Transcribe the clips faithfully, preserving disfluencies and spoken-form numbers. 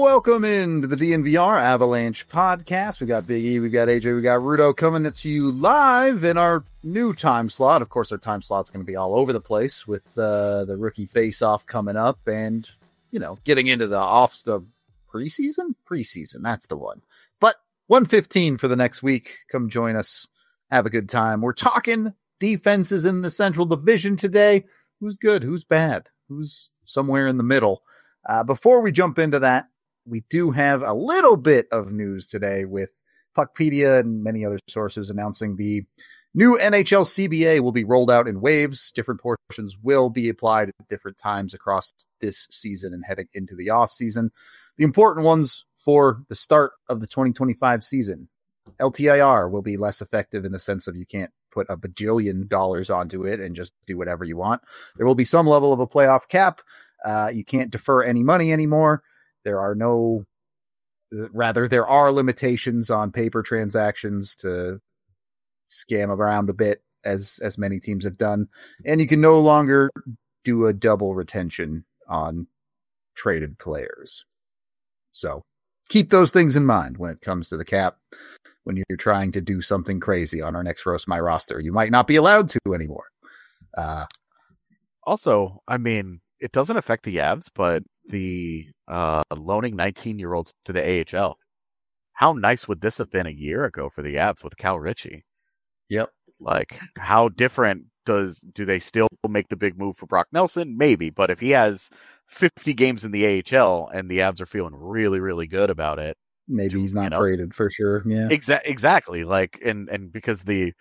Welcome into the D N V R Avalanche podcast. We got Big E, we got A J, we got Rudo coming to you live in our new time slot. Of course, our time slot's going to be all over the place with uh, the rookie face-off coming up and, you know, getting into the off the preseason? Preseason, that's the one. But one fifteen for the next week. Come join us. Have a good time. We're talking defenses in the Central Division today. Who's good? Who's bad? Who's somewhere in the middle? Uh, before we jump into that, we do have a little bit of news today with Puckpedia and many other sources announcing the new N H L C B A will be rolled out in waves. Different portions will be applied at different times across this season and heading into the off season. The important ones for the start of the twenty twenty-five season. L T I R will be less effective in the sense of you can't put a bajillion dollars onto it and just do whatever you want. There will be some level of a playoff cap. Uh, you can't defer any money anymore. There are no, rather, there are limitations on paper transactions to scam around a bit, as as many teams have done. And you can no longer do a double retention on traded players. So keep those things in mind when it comes to the cap. When you're trying to do something crazy on our next Roast My Roster, you might not be allowed to anymore. Uh, also, I mean, it doesn't affect the Avs, but the uh, loaning nineteen-year-olds to the A H L. How nice would this have been a year ago for the Avs with Cal Ritchie? Yep. Like, how different does do they still make the big move for Brock Nelson? Maybe, but if he has fifty games in the A H L and the Avs are feeling really, really good about it, maybe he's not you know, traded for sure. Yeah, exa- exactly. Like, and and because the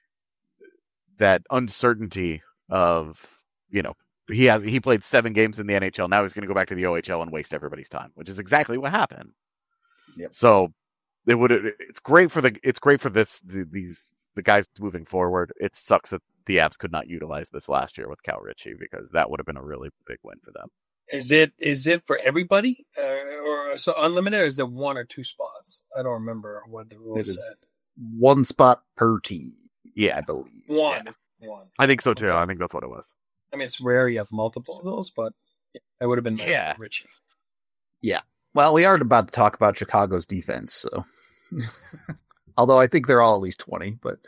that uncertainty of, you know, he has he played seven games in the N H L. Now he's going to go back to the O H L and waste everybody's time, which is exactly what happened. Yep. So it would it's great for the it's great for this the, these the guys moving forward. It sucks that the Avs could not utilize this last year with Cal Ritchie because that would have been a really big win for them. Is it is it for everybody uh, or so unlimited? Or is there one or two spots? I don't remember what the rules said. One spot per team. Yeah, I believe one. Yeah. One. I think so too. Okay. I think that's what it was. I mean, it's rare you have multiple of those, but it would have been nice yeah. for Richie. Yeah. Well, we are about to talk about Chicago's defense, so although I think they're all at least twenty, but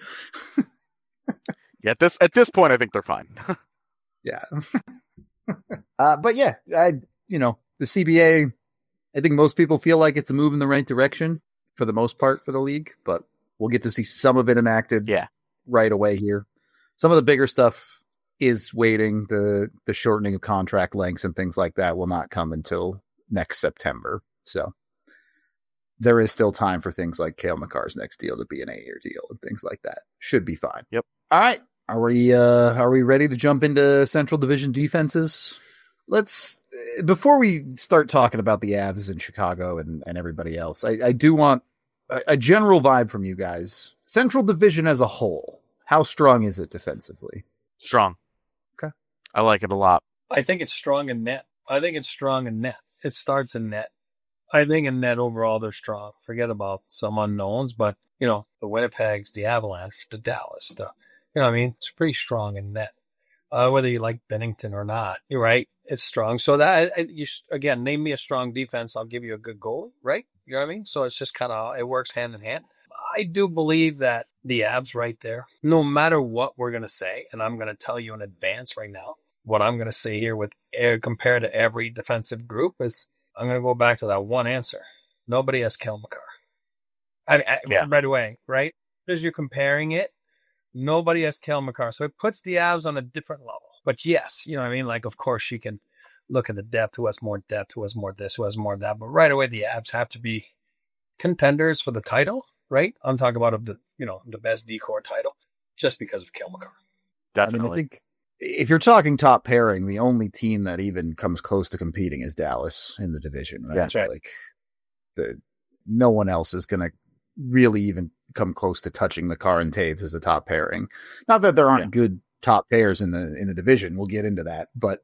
yeah, at this at this point, I think they're fine. yeah. uh, but yeah, I you know the C B A. I think most people feel like it's a move in the right direction for the most part for the league, but we'll get to see some of it enacted. Yeah. right away here. Some of the bigger stuff is waiting. The the shortening of contract lengths and things like that will not come until next September. So there is still time for things like Cale Makar's next deal to be an eight-year deal and things like that. Should be fine. Yep. All right. Are we uh, are we ready to jump into Central Division defenses? Let's before we start talking about the Avs in Chicago and, and everybody else, I, I do want a, a general vibe from you guys. Central Division as a whole, how strong is it defensively? Strong. Okay. I like it a lot. I think it's strong in net. I think it's strong in net. It starts in net. I think in net overall they're strong. Forget about some unknowns, but you know, the Winnipegs, the Avalanche, the Dallas, the you know what I mean? It's pretty strong in net. Uh, whether you like Bennington or not, you're right. It's strong. So that I, you again, name me a strong defense, I'll give you a good goalie, right? You know what I mean? So it's just kind of it works hand in hand. I do believe that the Avs right there, no matter what we're gonna say, and I'm gonna tell you in advance right now, what I'm gonna say here with compared to every defensive group is I'm gonna go back to that one answer. Nobody has Cale Makar. I, I yeah. right away, right? As you're comparing it. Nobody has Cale Makar. So it puts the Avs on a different level. But yes, you know what I mean? Like, of course, you can look at the depth, who has more depth, who has more this, who has more that. But right away, the Avs have to be contenders for the title, right? I'm talking about of the, you know, the best D-core title just because of Cale Makar. Definitely. I mean, I think if you're talking top pairing, the only team that even comes close to competing is Dallas in the division, right? Yeah, that's right. Like, the, no one else is going to really even come close to touching Makar and Taves as a top pairing. Not that there aren't yeah. good top pairs in the in the division. We'll get into that, but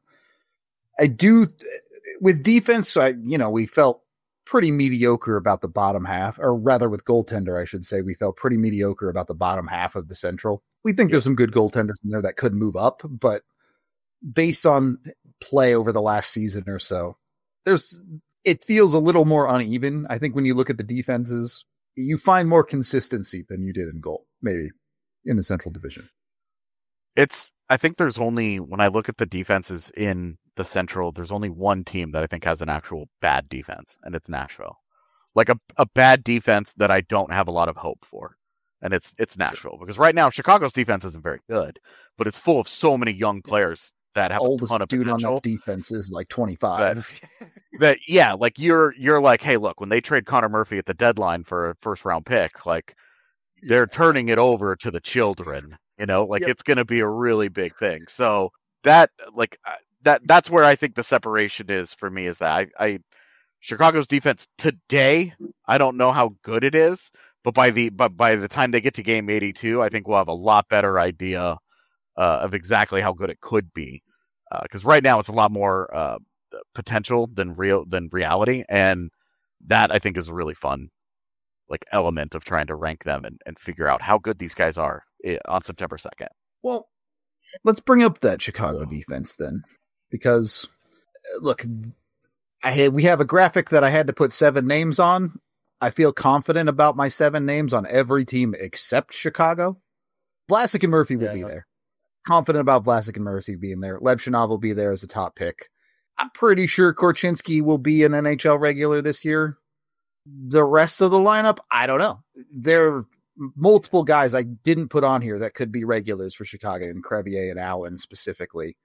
I do with defense. I you know we felt pretty mediocre about the bottom half, or rather with goaltender, I should say, we felt pretty mediocre about the bottom half of the Central. We think yeah. there's some good goaltenders in there that could move up, but based on play over the last season or so, there's it feels a little more uneven. I think when you look at the defenses, you find more consistency than you did in goal, maybe in the Central Division. It's, I think there's only, when I look at the defenses in the Central, there's only one team that I think has an actual bad defense, and it's Nashville. Like a, a bad defense that I don't have a lot of hope for. And it's it's Nashville. Because right now, Chicago's defense isn't very good, but it's full of so many young players that have Oldest a ton of dude potential. on that defense is like twenty-five. That, that yeah, like you're you're like, hey, look, when they trade Connor Murphy at the deadline for a first round pick, like they're turning it over to the children. You know, like Yep. it's going to be a really big thing. So that like that that's where I think the separation is for me. Is that I, I Chicago's defense today, I don't know how good it is, but by the but by the time they get to game eighty-two, I think we'll have a lot better idea uh, of exactly how good it could be. Because uh, right now it's a lot more uh, potential than real than reality, and that I think is a really fun like element of trying to rank them and, and figure out how good these guys are on September second. Well, let's bring up that Chicago defense then, because look, I had, we have a graphic that I had to put seven names on. I feel confident about my seven names on every team except Chicago. Vlasic and Murphy will Yeah, be no. there. Confident about Vlasic and Murphy being there. Levchinov will be there as a top pick. I'm pretty sure Korchinski will be an N H L regular this year. The rest of the lineup, I don't know. There are multiple guys I didn't put on here that could be regulars for Chicago, and Crevier and Allen specifically.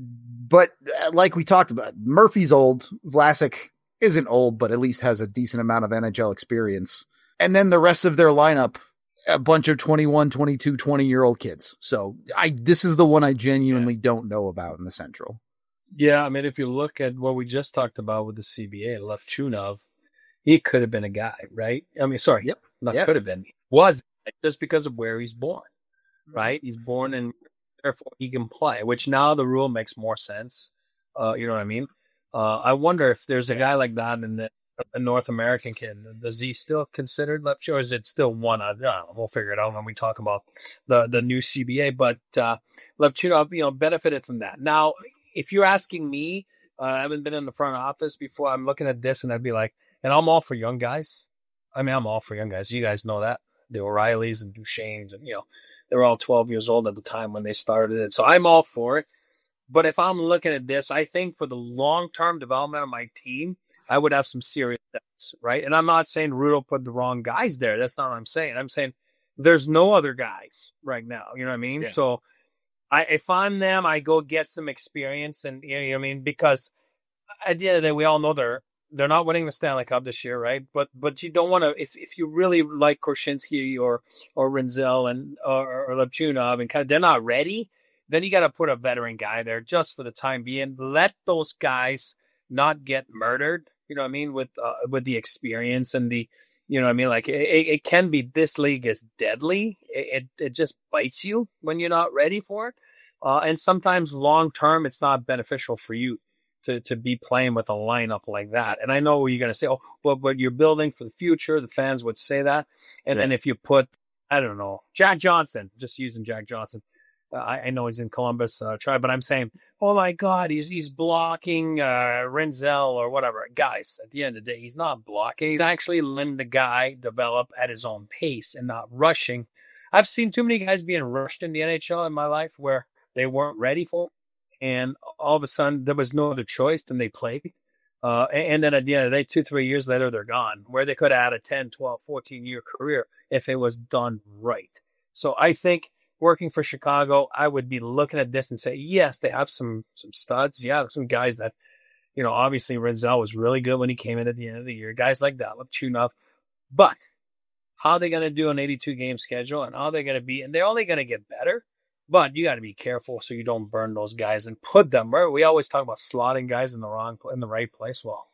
But uh, like we talked about, Murphy's old. Vlasic isn't old, but at least has a decent amount of N H L experience. And then the rest of their lineup, a bunch of twenty-one, twenty-two, twenty-year-old kids. So I this is the one I genuinely yeah. don't know about in the Central. Yeah, I mean, if you look at what we just talked about with the C B A, Levchunov, he could have been a guy, right? I mean, sorry, yep. not yep. could have been. He was just because of where he's born, right? He's born and therefore he can play, which now the rule makes more sense. Uh, you know what I mean? Uh, I wonder if there's a guy like that in the a North American kid. Does he still considered left, or is it still one? I don't know. We'll figure it out when we talk about the, the new C B A. But uh, Levchunov, you know, benefited from that. Now, if you're asking me, uh, I haven't been in the front office before. I'm looking at this and I'd be like, and I'm all for young guys. I mean, I'm all for young guys. You guys know that. The O'Reillys and Duchesnes, and, you know, they were all twelve years old at the time when they started it. So I'm all for it. But if I'm looking at this, I think for the long-term development of my team, I would have some serious doubts, right? And I'm not saying Rudo put the wrong guys there. That's not what I'm saying. I'm saying there's no other guys right now. You know what I mean? Yeah. So I, if I'm them, I go get some experience, and you know what I mean? Because at the end of the day, we all know they're they're not winning the Stanley Cup this year, right? But but you don't want to, if if you really like Korchinski or or Rinzel and or, or Levchunov, and kind of, they're not ready, then you got to put a veteran guy there just for the time being. Let those guys not get murdered, you know what I mean, with uh, with the experience and the, you know what I mean, like it, it can be, this league is deadly. It, it it just bites you when you're not ready for it, uh, and sometimes long term it's not beneficial for you to to be playing with a lineup like that. And I know you're going to say, oh, but but you're building for the future. The fans would say that, and then yeah. if you put, I don't know, Jack Johnson, just using Jack Johnson. Uh, I, I know he's in Columbus, uh, try, but I'm saying, oh my God, he's he's blocking uh, Rinzel or whatever. Guys, at the end of the day, he's not blocking. He's actually letting the guy develop at his own pace and not rushing. I've seen too many guys being rushed in the N H L in my life where they weren't ready for it, and all of a sudden there was no other choice and they played. Uh, and, and then at the end of the day, two, three years later, they're gone, where they could have had a ten, twelve, fourteen-year career if it was done right. So I think working for Chicago, I would be looking at this and say, yes, they have some some studs. Yeah, some guys that, you know, obviously Rinzel was really good when he came in at the end of the year. Guys like that, Levchunov. But how are they going to do an eighty-two game schedule, and how are they going to be? And they're only going to get better, but you got to be careful so you don't burn those guys and put them where we always talk about slotting guys in the wrong, in the right place. Well,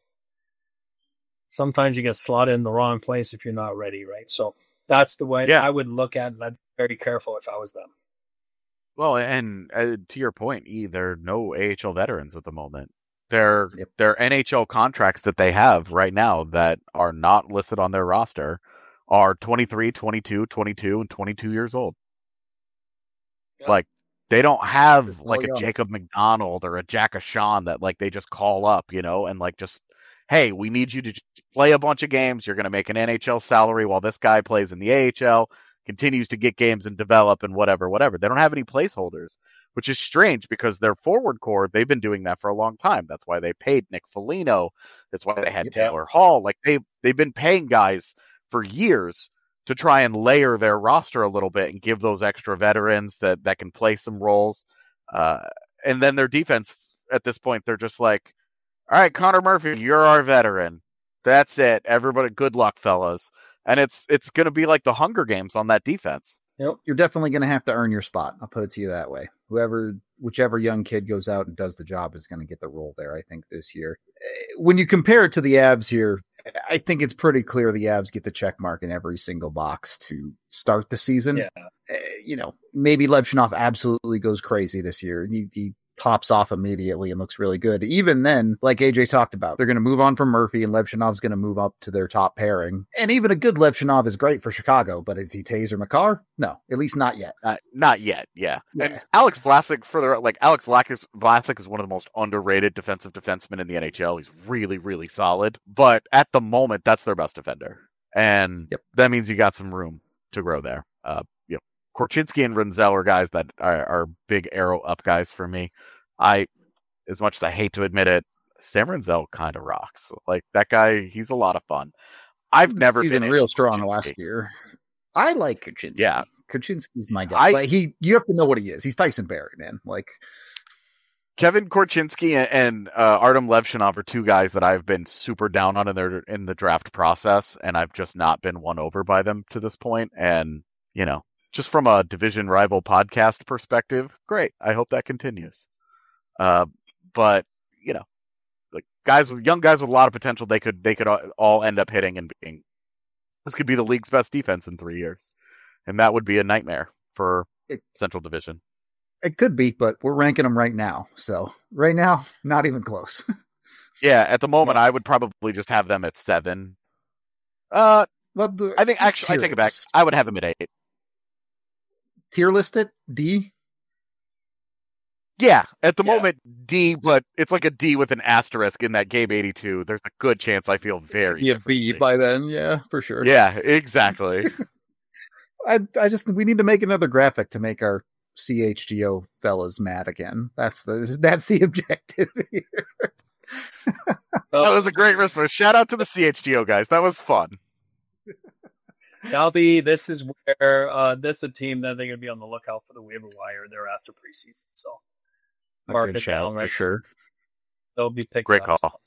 sometimes you get slotted in the wrong place if you're not ready, right? So that's the way yeah. I would look at it. I'd be very careful if I was them. Well, and uh, to your point, E, there are no A H L veterans at the moment. Their yep. their N H L contracts that they have right now that are not listed on their roster are twenty-three, twenty-two, twenty-two, and twenty-two years old. Yeah. Like, they don't have like a Jacob McDonald or a Jack Ashawn that like they just call up, you know, and like just hey, we need you to just play a bunch of games. You're going to make an N H L salary while this guy plays in the A H L, continues to get games and develop and whatever, whatever. They don't have any placeholders, which is strange because their forward core, they've been doing that for a long time. That's why they paid Nick Foligno. That's why they had Yeah. Taylor Hall. Like they, they've been paying guys for years to try and layer their roster a little bit and give those extra veterans that, that can play some roles. Uh, and then their defense at this point, they're just like, all right, Connor Murphy, you're our veteran. That's it. Everybody, good luck, fellas. And it's it's going to be like the Hunger Games on that defense. Yep. You're definitely going to have to earn your spot. I'll put it to you that way. Whoever, whichever young kid goes out and does the job is going to get the role there, I think, this year. When you compare it to the Avs here, I think it's pretty clear the Avs get the check mark in every single box to start the season. Yeah. Uh, you know, maybe Levchinov absolutely goes crazy this year. He, he pops off immediately and looks really good. Even then, like A J talked about, they're going to move on from Murphy and Levchinov's going to move up to their top pairing. And even a good Levchinov is great for Chicago, but is he Taser Makar? No, at least not yet. Uh, not yet, yeah. Yeah. And Alex Vlasic, for the like Alex Vlasic, Vlasic is one of the most underrated defensive defensemen in the N H L. He's really, really solid. But at the moment, that's their best defender. And Yep. that means you got some room to grow there. Uh, you know, Korchinski and Renzel are guys that are, are big arrow up guys for me. I, as much as I hate to admit it, Sam Renzel kind of rocks. Like that guy, he's a lot of fun. I've never He's been been real into strong Korchinski. last year. I like Kuczynski. Yeah. Kuczynski's my guy. I- Like he, you have to know what he is. He's Tyson Barrie, man. Like, Kevin Korchinski and, and uh, Artem Levchinov are two guys that I've been super down on in their in the draft process, and I've just not been won over by them to this point. And you know, just from a division rival podcast perspective, great. I hope that continues. Uh, but you know, like guys with young guys with a lot of potential, they could they could all end up hitting and being. This could be the league's best defense in three years, and that would be a nightmare for It- Central Division. it could be, but we're ranking them right now. So right now, not even close. Yeah, at the moment, I would probably just have them at seven. Uh, Well, do- I think let's actually, I tier take it back. list. I would have them at eight. Tier list it D. Yeah, at the Yeah. moment, D, but it's like a D with an asterisk in that Gabe eighty-two. There's a good chance I feel very Be a B differently. by then. Yeah, for sure. Yeah, exactly. I, I just we need to make another graphic to make our C H G O fellas mad again. That's the that's the objective here. That was a great response. Shout out to the C H G O guys. That was fun. Now the this is where uh, this is a team that they're going to be on the lookout for the waiver wire there after preseason. So A mark good it shout down for right. sure. They'll be picked Great up. call.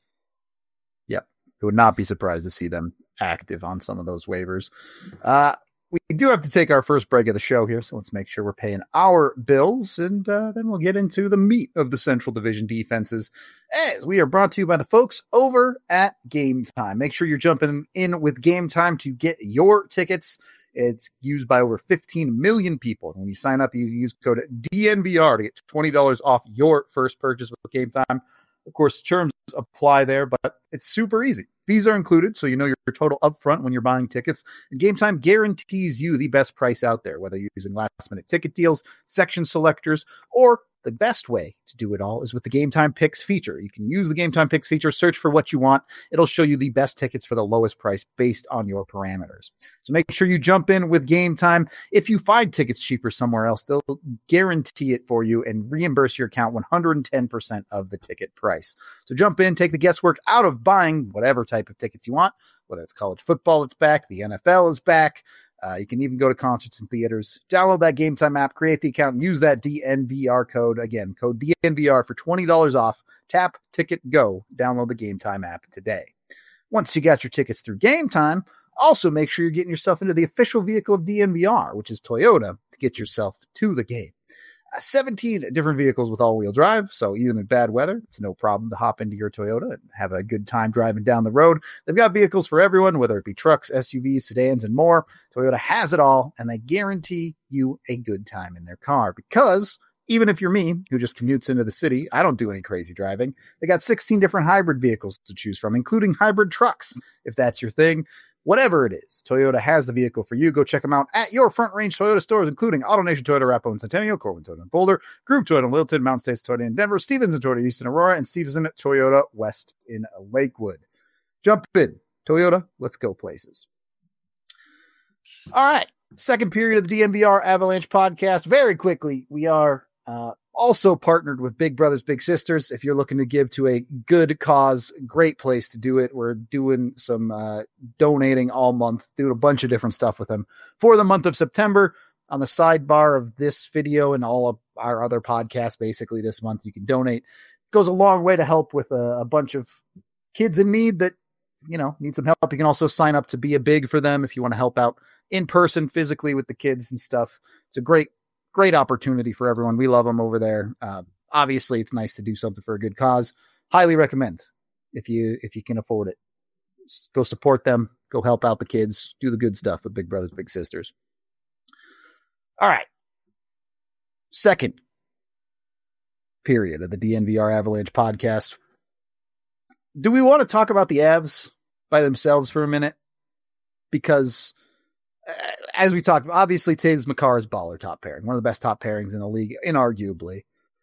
I would not be surprised to see them active on some of those waivers. Uh, we do have to take our first break of the show here, so let's make sure we're paying our bills, and uh, then we'll get into the meat of the Central Division defenses, as we are brought to you by the folks over at Game Time. Make sure you're jumping in with Game Time to get your tickets. It's used by over fifteen million people. When you sign up, you use code D N V R to get twenty dollars off your first purchase with Game Time. Of course, terms apply there, but it's super easy. Fees are included, so you know your total upfront when you're buying tickets. And Game Time guarantees you the best price out there, whether you're using last-minute ticket deals, section selectors, or the best way to do it all is with the Game Time Picks feature. You can use the Game Time Picks feature, search for what you want. It'll show you the best tickets for the lowest price based on your parameters. So make sure you jump in with Game Time. If you find tickets cheaper somewhere else, they'll guarantee it for you and reimburse your account one hundred ten percent of the ticket price. So jump in, take the guesswork out of buying whatever type of tickets you want, whether it's college football, it's back, the N F L is back. Uh, you can even go to concerts and theaters. Download that Game Time app, create the account, and use that D N V R code. Again, code D N V R for twenty dollars off. Tap, ticket, go. Download the Game Time app today. Once you got your tickets through Game Time, also make sure you're getting yourself into the official vehicle of D N V R, which is Toyota, to get yourself to the game. Uh, seventeen different vehicles with all-wheel drive, so even in bad weather, it's no problem to hop into your Toyota and have a good time driving down the road. They've got vehicles for everyone, whether it be trucks, S U Vs, sedans, and more. Toyota has it all, and they guarantee you a good time in their car because even if you're me, who just commutes into the city, I don't do any crazy driving. They got sixteen different hybrid vehicles to choose from, including hybrid trucks, if that's your thing. Whatever it is, Toyota has the vehicle for you. Go check them out at your Front Range Toyota stores, including AutoNation Toyota, Arapahoe and Centennial, Corbin Toyota and Boulder, Group Toyota in Littleton, Mountain States Toyota in Denver, Stevenson Toyota East in Aurora, and Stevenson Toyota West in Lakewood. Jump in. Toyota, let's go places. All right. Second period of the D N V R Avalanche podcast. Very quickly, we are uh, also partnered with Big Brothers Big Sisters. If you're looking to give to a good cause, great place to do it. We're doing some uh, donating all month, doing a bunch of different stuff with them for the month of September. On the sidebar of this video and all of our other podcasts, basically this month, you can donate. It goes a long way to help with a, a bunch of kids in need that, you know, need some help. You can also sign up to be a big for them if you want to help out in person, physically with the kids and stuff. It's a great, great opportunity for everyone. We love them over there. Uh, obviously, it's nice to do something for a good cause. Highly recommend if you if you can afford it. Go support them. Go help out the kids. Do the good stuff with Big Brothers Big Sisters. All right. Second period of the D N V R Avalanche podcast. Do we want to talk about the Avs by themselves for a minute? Because as we talked, obviously Taves Makar's baller top pairing, one of the best top pairings in the league, inarguably.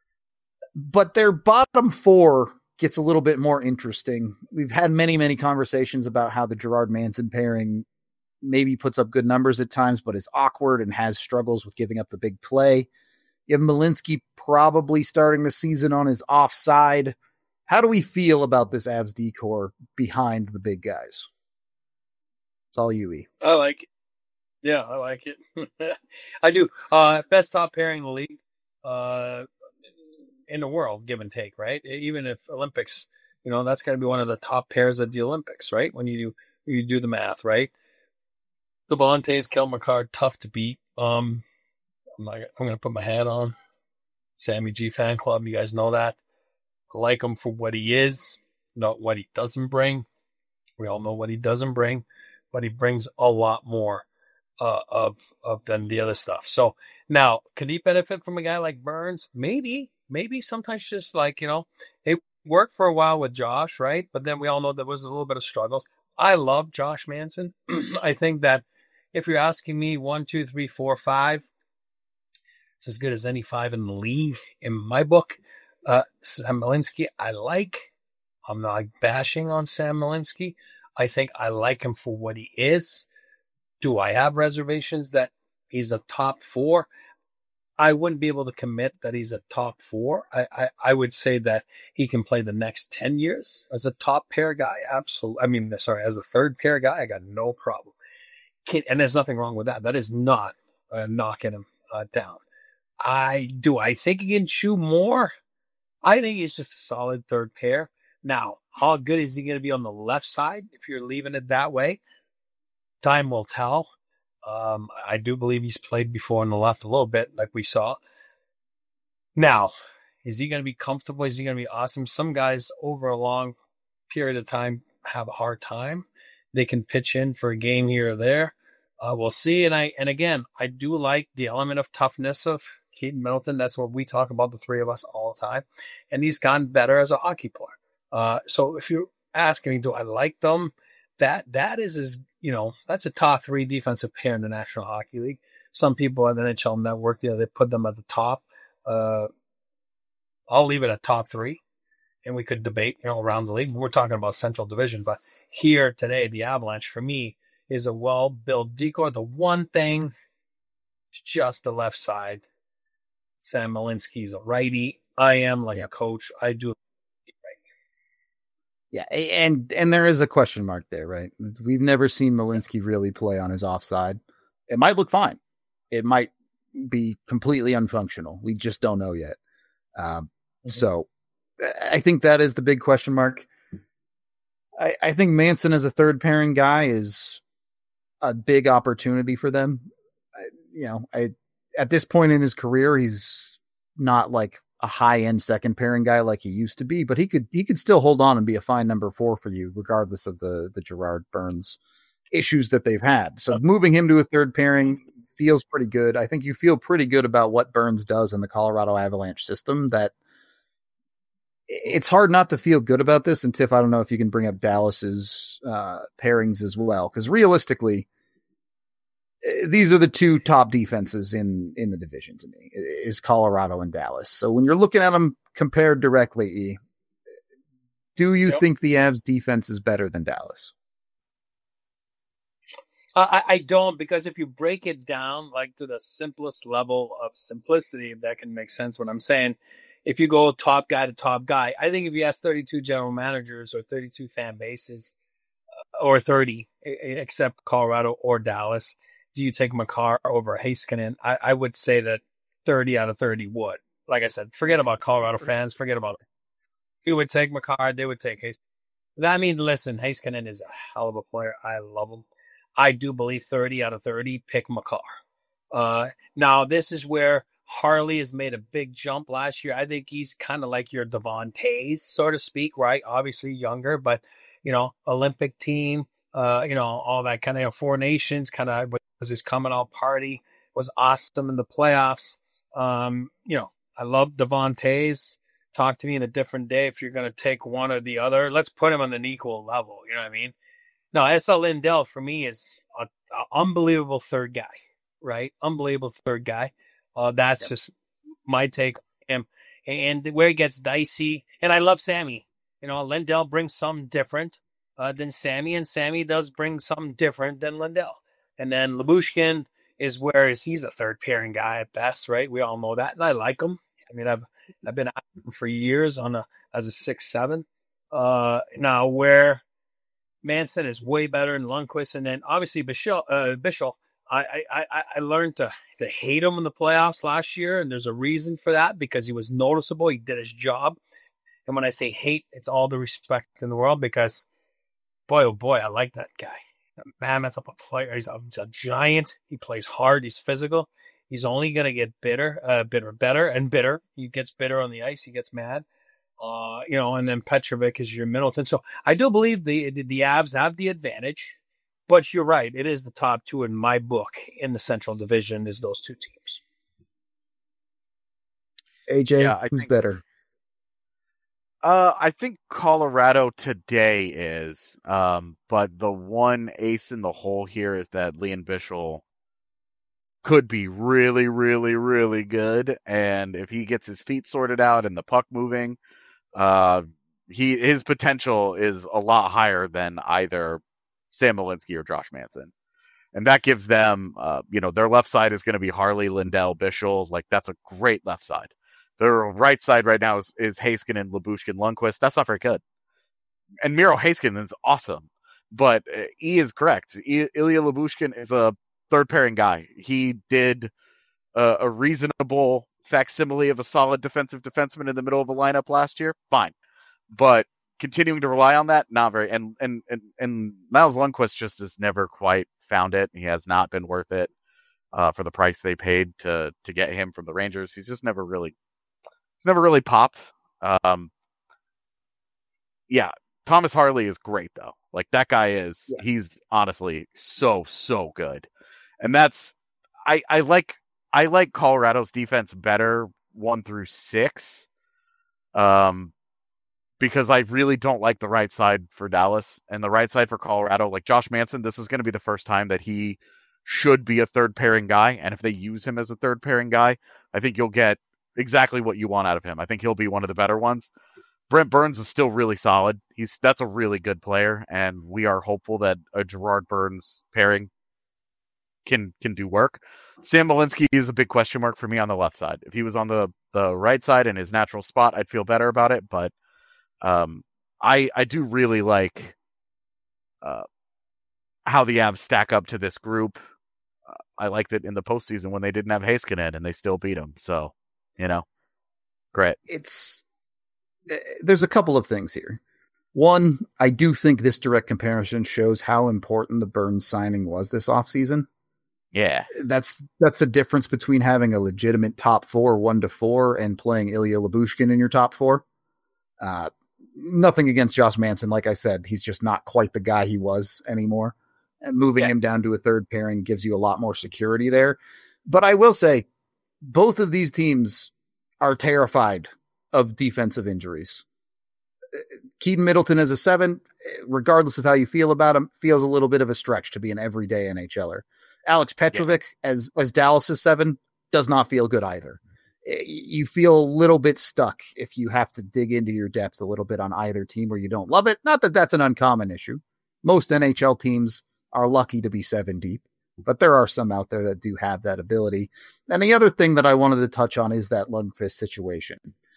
But their bottom four gets a little bit more interesting. We've had many, many conversations about how the Gerard Manson pairing maybe puts up good numbers at times, but is awkward and has struggles with giving up the big play. You have Malinsky probably starting the season on his offside. How do we feel about this Avs decor behind the big guys? It's all you, E. I like it. Yeah, I like it. I do. Uh, best top pairing in the league, uh, in the world, give and take, right? Even if Olympics, you know, that's got to be one of the top pairs at the Olympics, right? When you do, you do the math, right? The Belentes, Kel McCarr, tough to beat. Um, I'm not, I'm going to put my hat on. Sammy G fan club, you guys know that. I like him for what he is, not what he doesn't bring. We all know what he doesn't bring, but he brings a lot more uh, of of than the other stuff. So now, could he benefit from a guy like Burns? Maybe, maybe sometimes just like, you know, it worked for a while with Josh, right? But then we all know there was a little bit of struggles. I love Josh Manson. I think that if you're asking me one, two, three, four, five, it's as good as any five in the league in my book. Uh, Sam Malinsky, I like. I'm not bashing on Sam Malinsky. I think I like him for what he is. Do I have reservations that he's a top four? I wouldn't be able to commit that he's a top four. I, I, I would say that he can play the next ten years as a top pair guy. Absolutely. I mean, sorry, as a third pair guy, I got no problem. Can, and there's nothing wrong with that. That is not uh, knocking him uh, down. I do. I think he can chew more. I think he's just a solid third pair. Now, how good is he going to be on the left side if you're leaving it that way? Time will tell. Um, I do believe he's played before on the left a little bit, like we saw. Now, is he going to be comfortable? Is he going to be awesome? Some guys over a long period of time have a hard time. They can pitch in for a game here or there. Uh, we'll see. And I, and again, I do like the element of toughness of Keaton Middleton. That's what we talk about, the three of us, all the time. And he's gotten better as a hockey player. Uh, so if you're asking me, do I like them? That, that is, is, you know, that's a top three defensive pair in the National Hockey League. Some people at the N H L Network, you know, they put them at the top. Uh, I'll leave it at top three. And we could debate, you know, around the league. We're talking about Central Division, but here today, the Avalanche for me is a well-built decor. The one thing is just the left side. Sam Malinsky's a righty. I am like yep. a coach. I do. Yeah, and and there is a question mark there, right? We've never seen Malinsky really play on his offside. It might look fine. It might be completely unfunctional. We just don't know yet. Um, mm-hmm. So I think that is the big question mark. I, I think Manson as a third pairing guy is a big opportunity for them. I, you know, I at this point in his career, he's not like a high end second pairing guy like he used to be, but he could he could still hold on and be a fine number four for you, regardless of the the Gerard Burns issues that they've had. So moving him to a third pairing feels pretty good. I think you feel pretty good about what Burns does in the Colorado Avalanche system. That it's hard not to feel good about this. And Tiff, I don't know if you can bring up Dallas's uh, pairings as well, because realistically, these are the two top defenses in, in the division to me, is Colorado and Dallas. So when you're looking at them compared directly, Do you Yep. think the Avs defense is better than Dallas? I, I don't, because if you break it down like to the simplest level of simplicity, if that can make sense what I'm saying, if you go top guy to top guy, I think if you ask thirty-two general managers or thirty-two fan bases, or thirty, except Colorado or Dallas, do you take Makar over Heiskanen? I, I would say that thirty out of thirty would. Like I said, forget about Colorado fans, forget about it. You would take Makar, they would take Heiskanen. I mean, listen, Heiskanen is a hell of a player. I love him. I do believe thirty out of thirty pick Makar. Uh, now, this is where Harley has made a big jump last year. I think he's kind of like your Devon Tays, so to speak, right? Obviously younger, but, you know, Olympic team, uh, you know, all that kind of, you know, Four Nations kind of was his coming out party, was awesome in the playoffs. Um, you know, I love Devon Tays. Talk to me in a different day if you're going to take one or the other. Let's put him on an equal level. You know what I mean? No, S L Lindell for me is an unbelievable third guy, right? Unbelievable third guy. Uh, that's yep. just my take on him. And where he gets dicey, and I love Sammy. You know, Lindell brings something different uh, than Sammy, and Sammy does bring something different than Lindell. And then Lyubushkin is where is he's a third pairing guy at best, right? We all know that, and I like him. I mean, I've I've been at him for years on a as a six seven. Uh, now where Manson is way better than Lundqvist, and then obviously Bichel. Uh, Bichel I, I I learned to to hate him in the playoffs last year, and there's a reason for that because he was noticeable. He did his job, and when I say hate, it's all the respect in the world because, boy oh boy, I like that guy. A mammoth of a player. He's a, he's a giant. He plays hard. He's physical. He's only gonna get bitter, uh, bitter, better and bitter. He gets bitter on the ice. He gets mad. Uh, you know, and then Petrovic is your Middleton. So I do believe the, the the Avs have the advantage, but you're right. It is the top two in my book in the Central Division is those two teams. A J, yeah, I who's think, better? Uh, I think Colorado today is, um, but the one ace in the hole here is that Liam Bichel could be really, really, really good, and if he gets his feet sorted out and the puck moving, uh, he his potential is a lot higher than either Sam Malinsky or Josh Manson. And that gives them, uh, you know, their left side is going to be Harley, Lindell, Bichel. Like, that's a great left side. Their right side right now is, is Heiskanen, Lyubushkin, Lundqvist. That's not very good. And Miro Heiskanen is awesome. But uh, E is correct. I, Ilya Lyubushkin is a third pairing guy. He did uh, a reasonable facsimile of a solid defensive defenseman in the middle of the lineup last year. Fine. But continuing to rely on that, not very. And and and, and Miles Lundqvist just has never quite found it. He has not been worth it uh, for the price they paid to to get him from the Rangers. He's just never really, he's never really popped. Um, yeah, Thomas Harley is great though. Like that guy is, yeah. He's honestly so so good, and that's I I like I like Colorado's defense better one through six. Um. Because I really don't like the right side for Dallas and the right side for Colorado. Like Josh Manson, this is going to be the first time that he should be a third pairing guy. And if they use him as a third pairing guy, I think you'll get exactly what you want out of him. I think he'll be one of the better ones. Brent Burns is still really solid. He's that's a really good player. And we are hopeful that a Gerard Burns pairing can can do work. Sam Malinsky is a big question mark for me on the left side. If he was on the, the right side in his natural spot, I'd feel better about it. But Um, I I do really like uh, how the Avs stack up to this group. Uh, I liked it in the postseason when they didn't have Heiskanen and they still beat them. So, you know, great. It's there's a couple of things here. One, I do think this direct comparison shows how important the Burns signing was this offseason. Yeah, that's that's the difference between having a legitimate top four, one to four, and playing Ilya Lyubushkin in your top four. Uh, Nothing against Josh Manson. Like I said, he's just not quite the guy he was anymore. And moving yeah. him down to a third pairing gives you a lot more security there. But I will say, both of these teams are terrified of defensive injuries. Keaton Middleton as a seven, regardless of how you feel about him, feels a little bit of a stretch to be an everyday NHLer. Alex Petrovic yeah. as, as Dallas's seven does not feel good either. you feel a little bit stuck if you have to dig into your depth a little bit on either team or you don't love it. Not that that's an uncommon issue. Most N H L teams are lucky to be seven deep, but there are some out there that do have that ability. And the other thing that I wanted to touch on is that Lundqvist situation.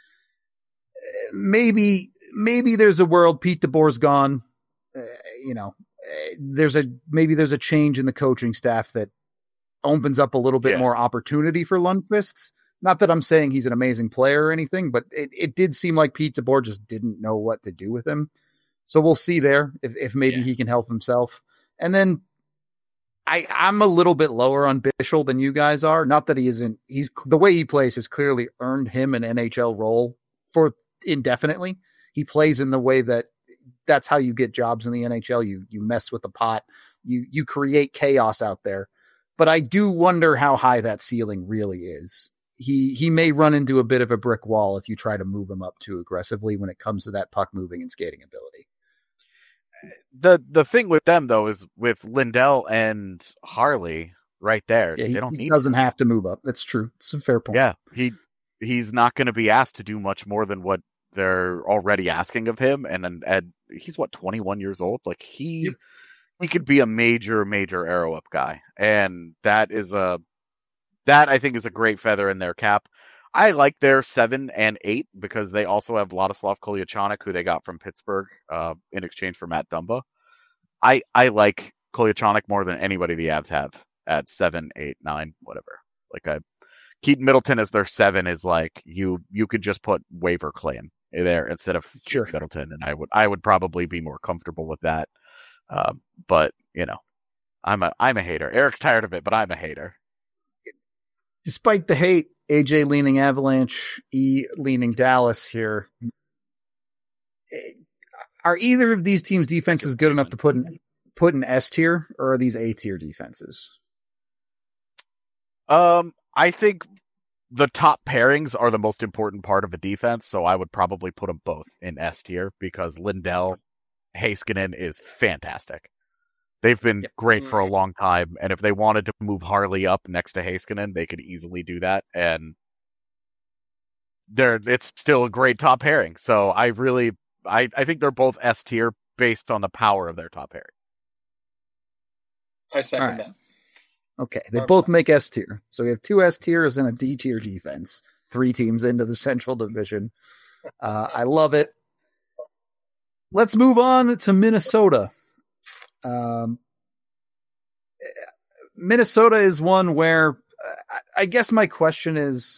Maybe, maybe there's a world Pete DeBoer's gone. Uh, you know, there's a, maybe there's a change in the coaching staff that opens up a little bit yeah. more opportunity for Lundqvist. Not that I'm saying he's an amazing player or anything, but it, it did seem like Pete DeBoer just didn't know what to do with him. So we'll see there if, if maybe yeah. he can help himself. And then I, I'm a little bit lower on Bichsel than you guys are. Not that he isn't, he's the way he plays has clearly earned him an N H L role for indefinitely. He plays in the way that that's how you get jobs in the N H L. You, you mess with the pot, you, you create chaos out there. But I do wonder how high that ceiling really is. He, he may run into a bit of a brick wall if you try to move him up too aggressively when it comes to that puck moving and skating ability. The the thing with them though is with Lindell and Harley right there. Yeah, they he, don't he need doesn't to. have to move up. That's true. It's a fair point. Yeah, he he's not going to be asked to do much more than what they're already asking of him. And and, and he's what twenty-one years old. Like he yep. he could be a major major arrow up guy, and that is a that I think is a great feather in their cap. I like their seven and eight because they also have Vladislav Kolyachonok, who they got from Pittsburgh uh, in exchange for Matt Dumba. I I like Kolyachonok more than anybody the Avs have at seven, eight, nine, whatever. Like I, Keaton Middleton as their seven is like you you could just put waiver claim there instead of sure. Middleton, and I would I would probably be more comfortable with that. Um, but you know, I'm a I'm a hater. Eric's tired of it, but I'm a hater. Despite the hate, A J leaning Avalanche, E leaning Dallas here. Are either of these teams' defenses good enough to put in put in S tier, or are these A tier defenses? Um, I think the top pairings are the most important part of a defense, so I would probably put them both in S tier because Lindell, Heiskanen is fantastic. They've been yep. great for a long time, and if they wanted to move Harley up next to Heiskanen, they could easily do that, and they're it's still a great top pairing. So I really, I, I think they're both S tier based on the power of their top pairing. I second right. that. Okay, they Our both make S tier. So we have two S tiers and a D tier defense. Three teams into the Central Division. Uh, I love it. Let's move on to Minnesota. Um, Minnesota is one where uh, I guess my question is,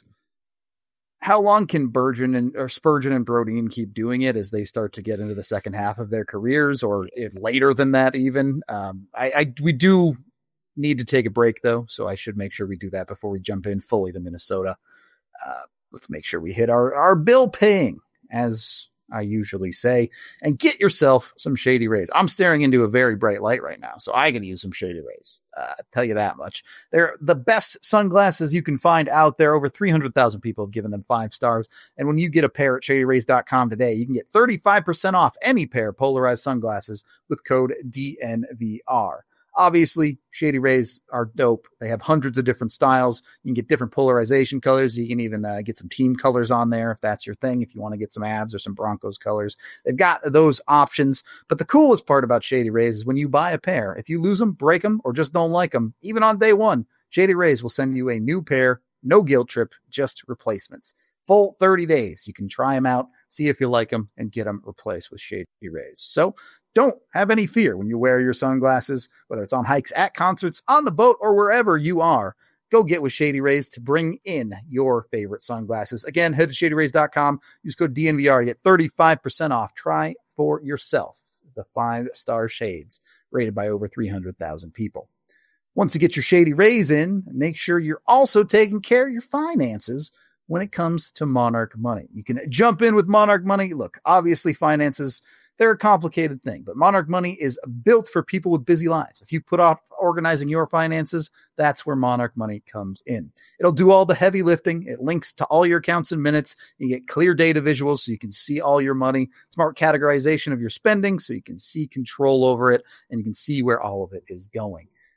how long can Bergen and or Spurgeon and Brodin keep doing it as they start to get into the second half of their careers, or it, later than that even? Um, I, I we do need to take a break though, so I should make sure we do that before we jump in fully to Minnesota. Uh, let's make sure we hit our our bill paying, as I usually say, and get yourself some Shady Rays. I'm staring into a very bright light right now, so I can use some Shady Rays. Uh, I'll tell you that much. They're the best sunglasses you can find out there. Over three hundred thousand people have given them five stars. And when you get a pair at shady rays dot com today, you can get thirty-five percent off any pair of polarized sunglasses with code D N V R. Obviously, Shady Rays are dope. They have hundreds of different styles. You can get different polarization colors. You can even uh, get some team colors on there if that's your thing, if you want to get some Avs or some Broncos colors. They've got those options. But the coolest part about Shady Rays is when you buy a pair, if you lose them, break them, or just don't like them, even on day one, Shady Rays will send you a new pair, no guilt trip, just replacements. Full thirty days. You can try them out, see if you like them, and get them replaced with Shady Rays. So don't have any fear when you wear your sunglasses, whether it's on hikes, at concerts, on the boat, or wherever you are. Go get with Shady Rays to bring in your favorite sunglasses. Again, head to shady rays dot com. Use code D N V R to get thirty-five percent off. Try for yourself the five-star shades rated by over three hundred thousand people. Once you get your Shady Rays in, make sure you're also taking care of your finances when it comes to Monarch Money. You can jump in with Monarch Money. Look, obviously finances, they're a complicated thing, but Monarch Money is built for people with busy lives. If you put off organizing your finances, that's where Monarch Money comes in. It'll do all the heavy lifting. It links to all your accounts in minutes. You get clear data visuals so you can see all your money, smart categorization of your spending so you can see control over it, and you can see where all of it is going.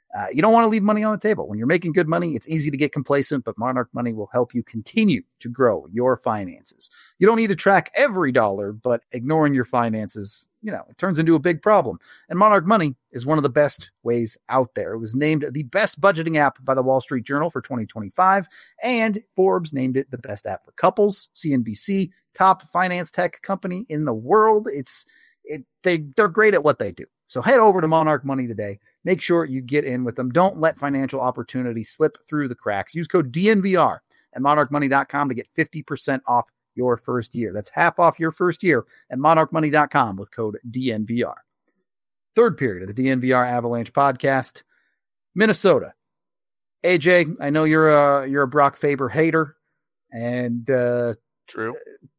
Uh, you don't want to leave money on the table. When you're making good money, it's easy to get complacent, but Monarch Money will help you continue to grow your finances. You don't need to track every dollar, but ignoring your finances, you know, it turns into a big problem. And Monarch Money is one of the best ways out there. It was named the best budgeting app by the Wall Street Journal for twenty twenty-five, and Forbes named it the best app for couples. C N B C, top finance tech company in the world. It's it they they're great at what they do. So head over to Monarch Money today. Make sure you get in with them. Don't let financial opportunity slip through the cracks. Use code D N V R at monarch money dot com to get fifty percent off your first year. That's half off your first year at monarch money dot com with code D N V R. Third period of the D N V R Avalanche podcast. Minnesota. A J, I know you're a, you're a Brock Faber hater. And uh, True.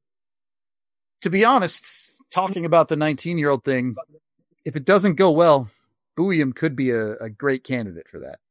To be honest, talking about the nineteen-year-old thing, if it doesn't go well, Buium could be a, a great candidate for that.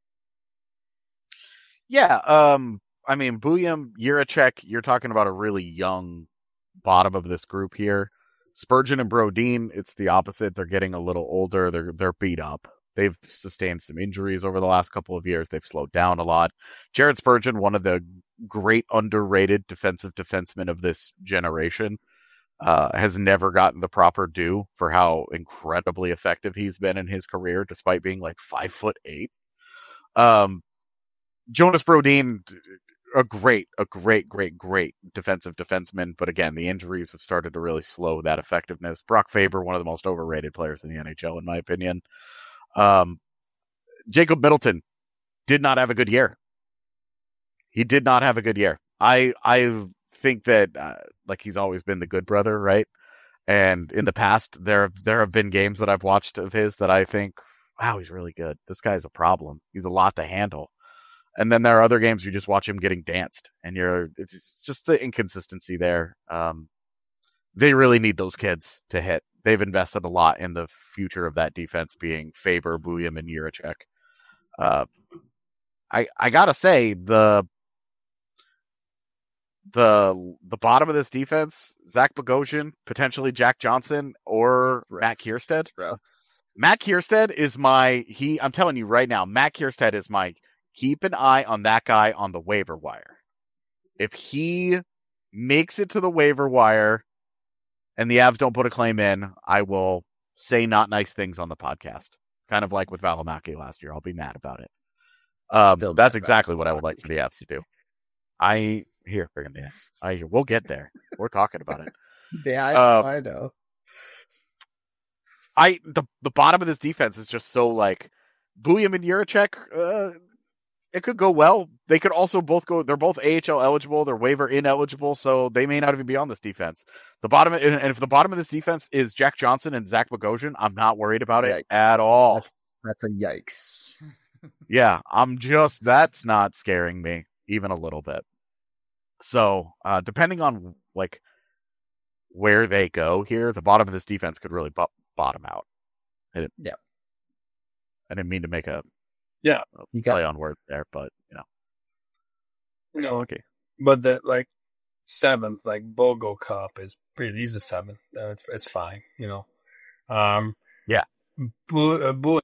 Yeah, um, I mean, Buium, Jiricek, you're talking about a really young bottom of this group here. Spurgeon and Brodin, it's the opposite. They're getting a little older. They're they're beat up. They've sustained some injuries over the last couple of years. They've slowed down a lot. Jared Spurgeon, one of the great underrated defensive defensemen of this generation, Uh, has never gotten the proper due for how incredibly effective he's been in his career, despite being like five foot eight. Um, Jonas Brodin, a great, a great, great, great defensive defenseman. But again, the injuries have started to really slow that effectiveness. Brock Faber, one of the most overrated players in the N H L, in my opinion. Um, Jacob Middleton did not have a good year. He did not have a good year. I, I've, think that uh, like he's always been the good brother, right? And in the past there there have been games that I've watched of his that I think, wow, he's really good. This guy's a problem. He's a lot to handle. And then there are other games you just watch him getting danced, and you're it's just the inconsistency there. Um, they really need those kids to hit. They've invested a lot in the future of that defense, being Faber, Buium, and Jiricek. Uh, I I gotta say the. The the bottom of this defense, Zach Bogosian, potentially Jack Johnson, or Matt Kiersted. Matt Kiersted is my he. I'm telling you right now, Matt Kiersted is my keep an eye on that guy on the waiver wire. If he makes it to the waiver wire, and the Avs don't put a claim in, I will say not nice things on the podcast. Kind of like with Valimaki last year. I'll be mad about it. Um, that's exactly what I would like for the Avs to do. I. Here, bring him in. I we'll get there. We're talking about it. Yeah, I, uh, I know. I the the bottom of this defense is just so like Buium and Jiricek. Uh, it could go well. They could also both go. They're both A H L eligible. They're waiver ineligible, so they may not even be on this defense. The bottom, and if the bottom of this defense is Jack Johnson and Zach Bogosian, I'm not worried about yikes. it at all. That's, that's a yikes. Yeah, I'm just that's not scaring me even a little bit. So, uh, depending on like where they go here, the bottom of this defense could really bo- bottom out. I didn't, yeah, I didn't mean to make a yeah a you got play on word there, but you know, no, okay. But the like seventh, like Bogo Cup is pretty. He's a seven. Uh, it's, it's fine, you know. Um, yeah, Bo, uh, Bo,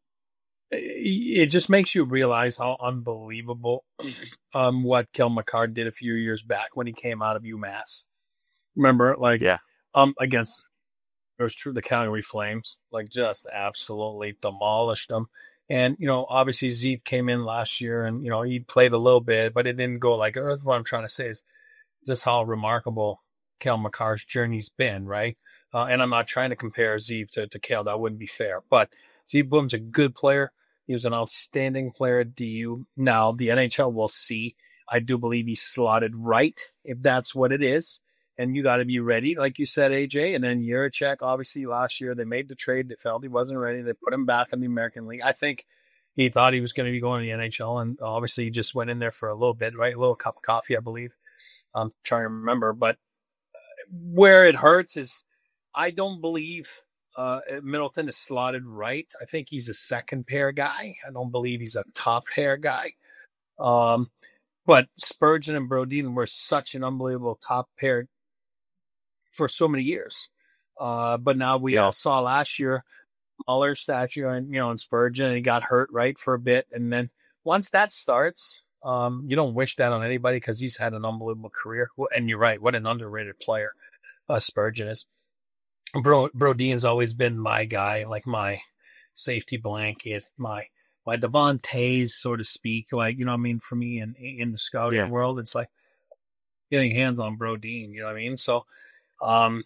it just makes you realize how unbelievable um what Kel McCarr did a few years back when he came out of UMass. Remember, like, yeah, um, against it was true the Calgary Flames, like just absolutely demolished them. And you know, obviously Zeev came in last year, and you know he played a little bit, but it didn't go like. What I'm trying to say is just how remarkable Kel McCarr's journey's been, right? Uh, and I'm not trying to compare Zeev to to Kel. That wouldn't be fair, but Zeev Boom's a good player. He was an outstanding player at D U. Now, the N H L will see. I do believe he's slotted right, if that's what it is. And you got to be ready, like you said, A J. And then Jiricek, obviously, last year, they made the trade. They felt he wasn't ready. They put him back in the American League. I think he thought he was going to be going to the N H L, and obviously he just went in there for a little bit, right? A little cup of coffee, I believe. I'm trying to remember. But where it hurts is I don't believe – Uh, Middleton is slotted right. I think he's a second pair guy. I don't believe he's a top pair guy. Um, but Spurgeon and Brodin were such an unbelievable top pair for so many years. Uh, but now we yeah. all saw last year smaller statue, and you know, in Spurgeon, and he got hurt right for a bit, and then once that starts, um, you don't wish that on anybody because he's had an unbelievable career. And you're right, what an underrated player uh, Spurgeon is. Bro, Brodeen's always been my guy, like my safety blanket, my my Devontae's, so to speak. Like, you know what I mean? For me, in in the scouting Yeah. world, it's like getting hands on Brodeen. You know what I mean? So, um,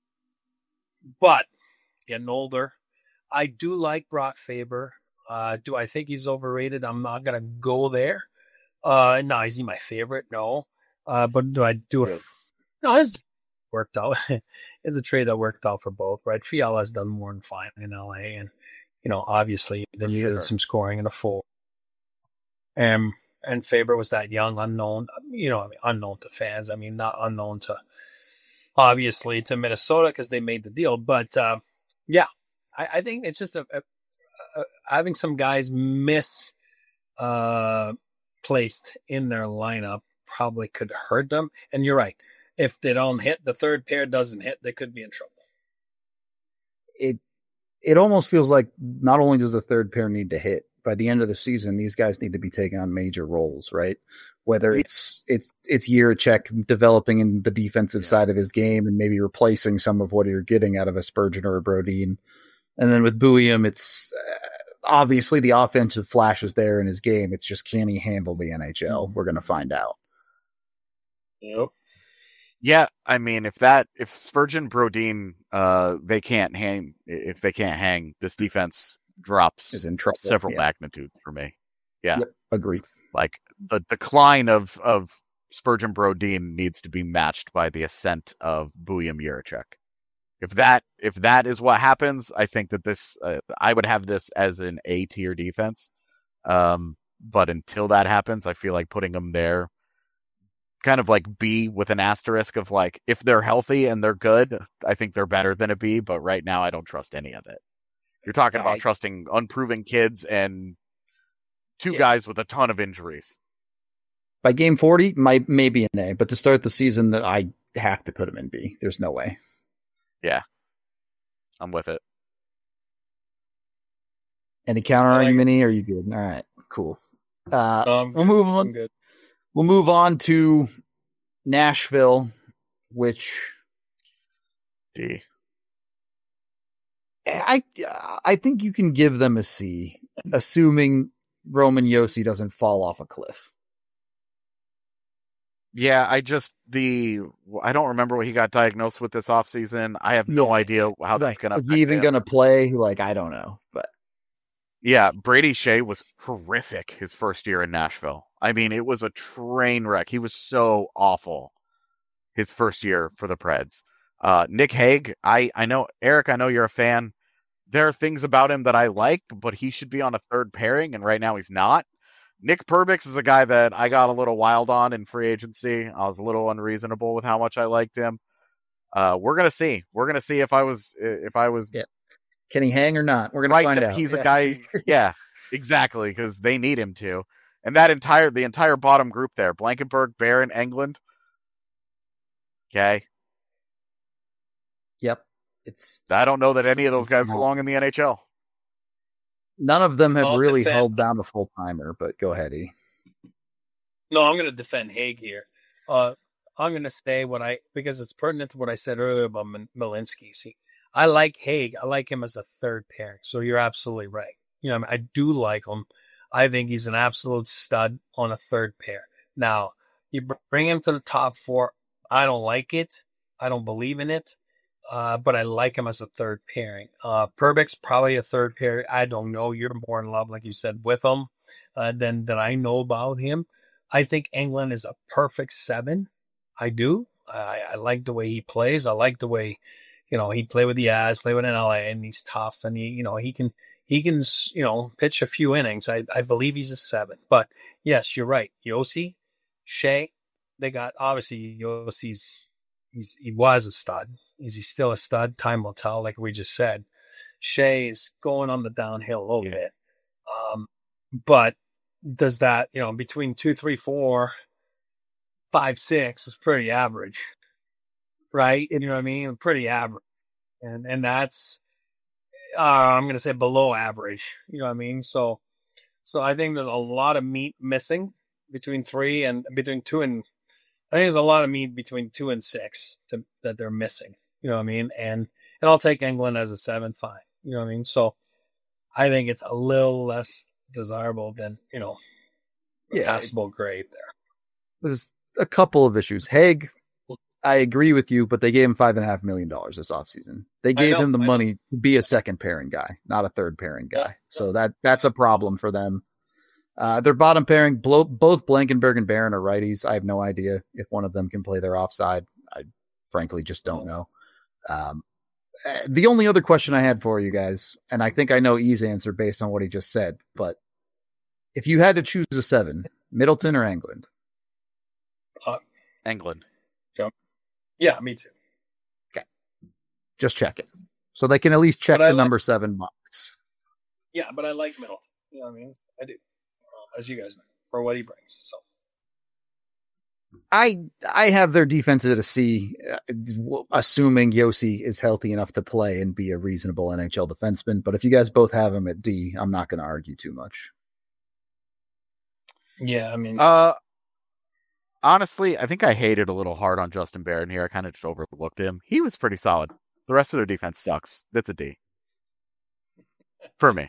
but getting older, I do like Brock Faber. Uh, do I think he's overrated? I'm not gonna go there. Uh, no, is he my favorite? No. Uh, but do I do it? No, it's worked out. It's a trade that worked out for both, right? Fiala's done more than fine in L A, and you know, obviously they needed sure. some scoring in a full. Um, and Faber was that young, unknown, you know, I mean, unknown to fans. I mean, not unknown to obviously to Minnesota because they made the deal. But uh, yeah, I, I think it's just a, a, a having some guys miss uh, placed in their lineup probably could hurt them. And you're right. If they don't hit, the third pair doesn't hit, they could be in trouble. It it almost feels like not only does the third pair need to hit, by the end of the season, these guys need to be taking on major roles, right? Whether it's it's it's Jiricek developing in the defensive yeah. side of his game and maybe replacing some of what you're getting out of a Spurgeon or a Brodeen. And then with Buium, it's uh, obviously the offensive flash is there in his game. It's just, can he handle the N H L? We're going to find out. Yep. Yeah, I mean, if that if Spurgeon, Brodeen, uh, they can't hang. If they can't hang, this defense drops is in trouble. Several yeah. magnitudes for me. Yeah, yep. Agree. Like the decline of of Spurgeon, Brodeen needs to be matched by the ascent of Buium, Jiricek. If that if that is what happens, I think that this uh, I would have this as an A tier defense. Um, but until that happens, I feel like putting them there. Kind of like B with an asterisk of like, if they're healthy and they're good, I think they're better than a B, but right now I don't trust any of it. You're talking about I, trusting unproven kids and two yeah. guys with a ton of injuries. By game forty, might maybe an A, but to start the season, that I have to put them in B. There's no way. Yeah. I'm with it. Any counter argument? Like, are you good? All right, cool. Uh, um, we'll move on. Good. We'll move on to Nashville, which D. I I think you can give them a C, assuming Roman Josi doesn't fall off a cliff. Yeah, I just the I don't remember what he got diagnosed with this offseason. I have no yeah. idea how that's going to. Is he even going to play? Like, I don't know, but. Yeah, Brady Shea was horrific his first year in Nashville. I mean, it was a train wreck. He was so awful his first year for the Preds. Uh, Nick Hague, I, I know, Eric, I know you're a fan. There are things about him that I like, but he should be on a third pairing, and right now he's not. Nick Perbix is a guy that I got a little wild on in free agency. I was a little unreasonable with how much I liked him. Uh, we're going to see. We're going to see if I was, if I was... Yeah. Can he hang or not? We're going right, to find out. He's yeah. a guy. Yeah, exactly. Because they need him to. And that entire, the entire bottom group there, Blankenburg, Barron, Englund. Okay. Yep. It's. I don't know that any of those guys belong in the N H L. None of them have I'll really defend. held down a full timer, but go ahead, E. No, I'm going to defend Hague here. Uh, I'm going to say what I, because it's pertinent to what I said earlier about Malinsky. See, I like Hague. I like him as a third pairing. So you're absolutely right. You know, I, mean, I do like him. I think he's an absolute stud on a third pair. Now, you bring him to the top four. I don't like it. I don't believe in it. Uh, but I like him as a third pairing. Uh, Perbix, probably a third pair. I don't know. You're more in love, like you said, with him uh, than, than I know about him. I think Englund is a perfect seven. I do. I, I like the way he plays. I like the way, you know, he played with the Avs, played with an L A, and he's tough, and he, you know, he can, he can, you know, pitch a few innings. I, I believe he's a seven. But yes, you're right. Josi, Shea, they got obviously Josi's, he's he was a stud. Is he still a stud? Time will tell, like we just said. Shea is going on the downhill a little yeah. bit, um, but does that, you know, between two, three, four, five, six is pretty average. Right? You know what I mean? Pretty average. And and that's, uh, I'm going to say below average. You know what I mean? So, so I think there's a lot of meat missing between three and between two and I think there's a lot of meat between two and six to, that they're missing. You know what I mean? And and I'll take England as a seven, fine. You know what I mean? So I think it's a little less desirable than you know, a Yeah. passable grade there. There's a couple of issues. Haig, I agree with you, but they gave him five and a half million dollars this offseason. They gave know, him the I money know. to be a second pairing guy, not a third pairing guy. Yeah, so yeah. that that's a problem for them. Uh, their bottom pairing, blow, both Blankenberg and Barron are righties. I have no idea if one of them can play their offside. I frankly just don't know. Um, the only other question I had for you guys, and I think I know E's answer based on what he just said, but if you had to choose a seven, Middleton or England? Uh, England. yeah, me too. Just check it. So they can at least check But I the like- number seven box. Yeah, but I like Middleton. You know what I mean? I do, um, as you guys know, for what he brings. So I I have their defense at a C, uh, assuming Yossi is healthy enough to play and be a reasonable N H L defenseman. But if you guys both have him at D, I'm not going to argue too much. yeah, I mean, Uh, honestly, I think I hated a little hard on Justin Barron here. I kind of just overlooked him. He was pretty solid. The rest of their defense sucks. That's a D for me.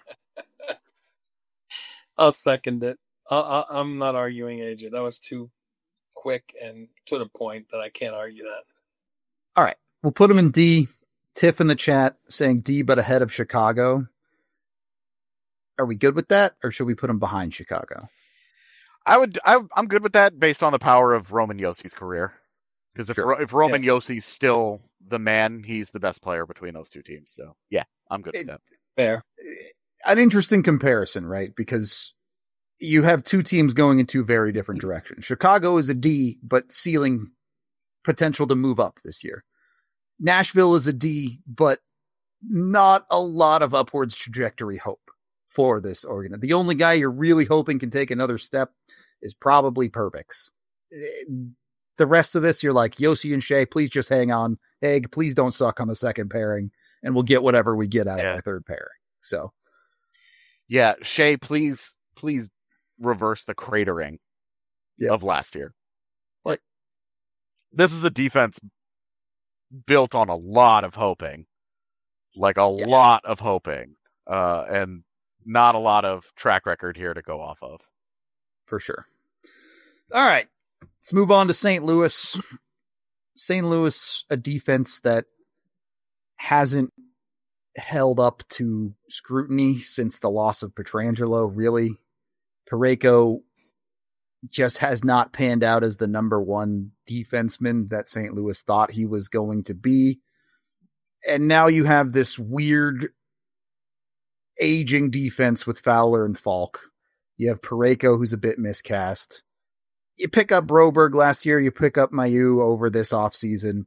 I'll second it. I, I, I'm not arguing A J. That was too quick and to the point that I can't argue that. All right, we'll put him in D. Tiff in the chat saying D, but ahead of Chicago. Are we good with that, or should we put him behind Chicago? I would. I, I'm good with that based on the power of Roman Yossi's career. Because if Sure. Ro- if Roman Yossi's still the man, he's the best player between those two teams. So yeah, I'm good It- with that. Fair. An interesting comparison, right? Because you have two teams going in two very different directions. Chicago is a D, but ceiling potential to move up this year. Nashville is a D, but not a lot of upwards trajectory hope for this organ. The only guy you're really hoping can take another step is probably Perbix. The rest of this, you're like, Yossi and Shea, please just hang on. Egg, please don't suck on the second pairing, and we'll get whatever we get out Yeah. of our third pairing. So, Yeah, Shea, please, please reverse the cratering Yeah. of last year. Like, this is a defense built on a lot of hoping, like a Yeah. lot of hoping, uh, and not a lot of track record here to go off of. for sure. All right. Let's move on to Saint Louis. Saint Louis, a defense that hasn't held up to scrutiny since the loss of Pietrangelo, really. Parayko just has not panned out as the number one defenseman that Saint Louis thought he was going to be. And now you have this weird aging defense with Fowler and Falk. You have Parayko, who's a bit miscast. You pick up Broberg last year. You pick up Mayu over this offseason.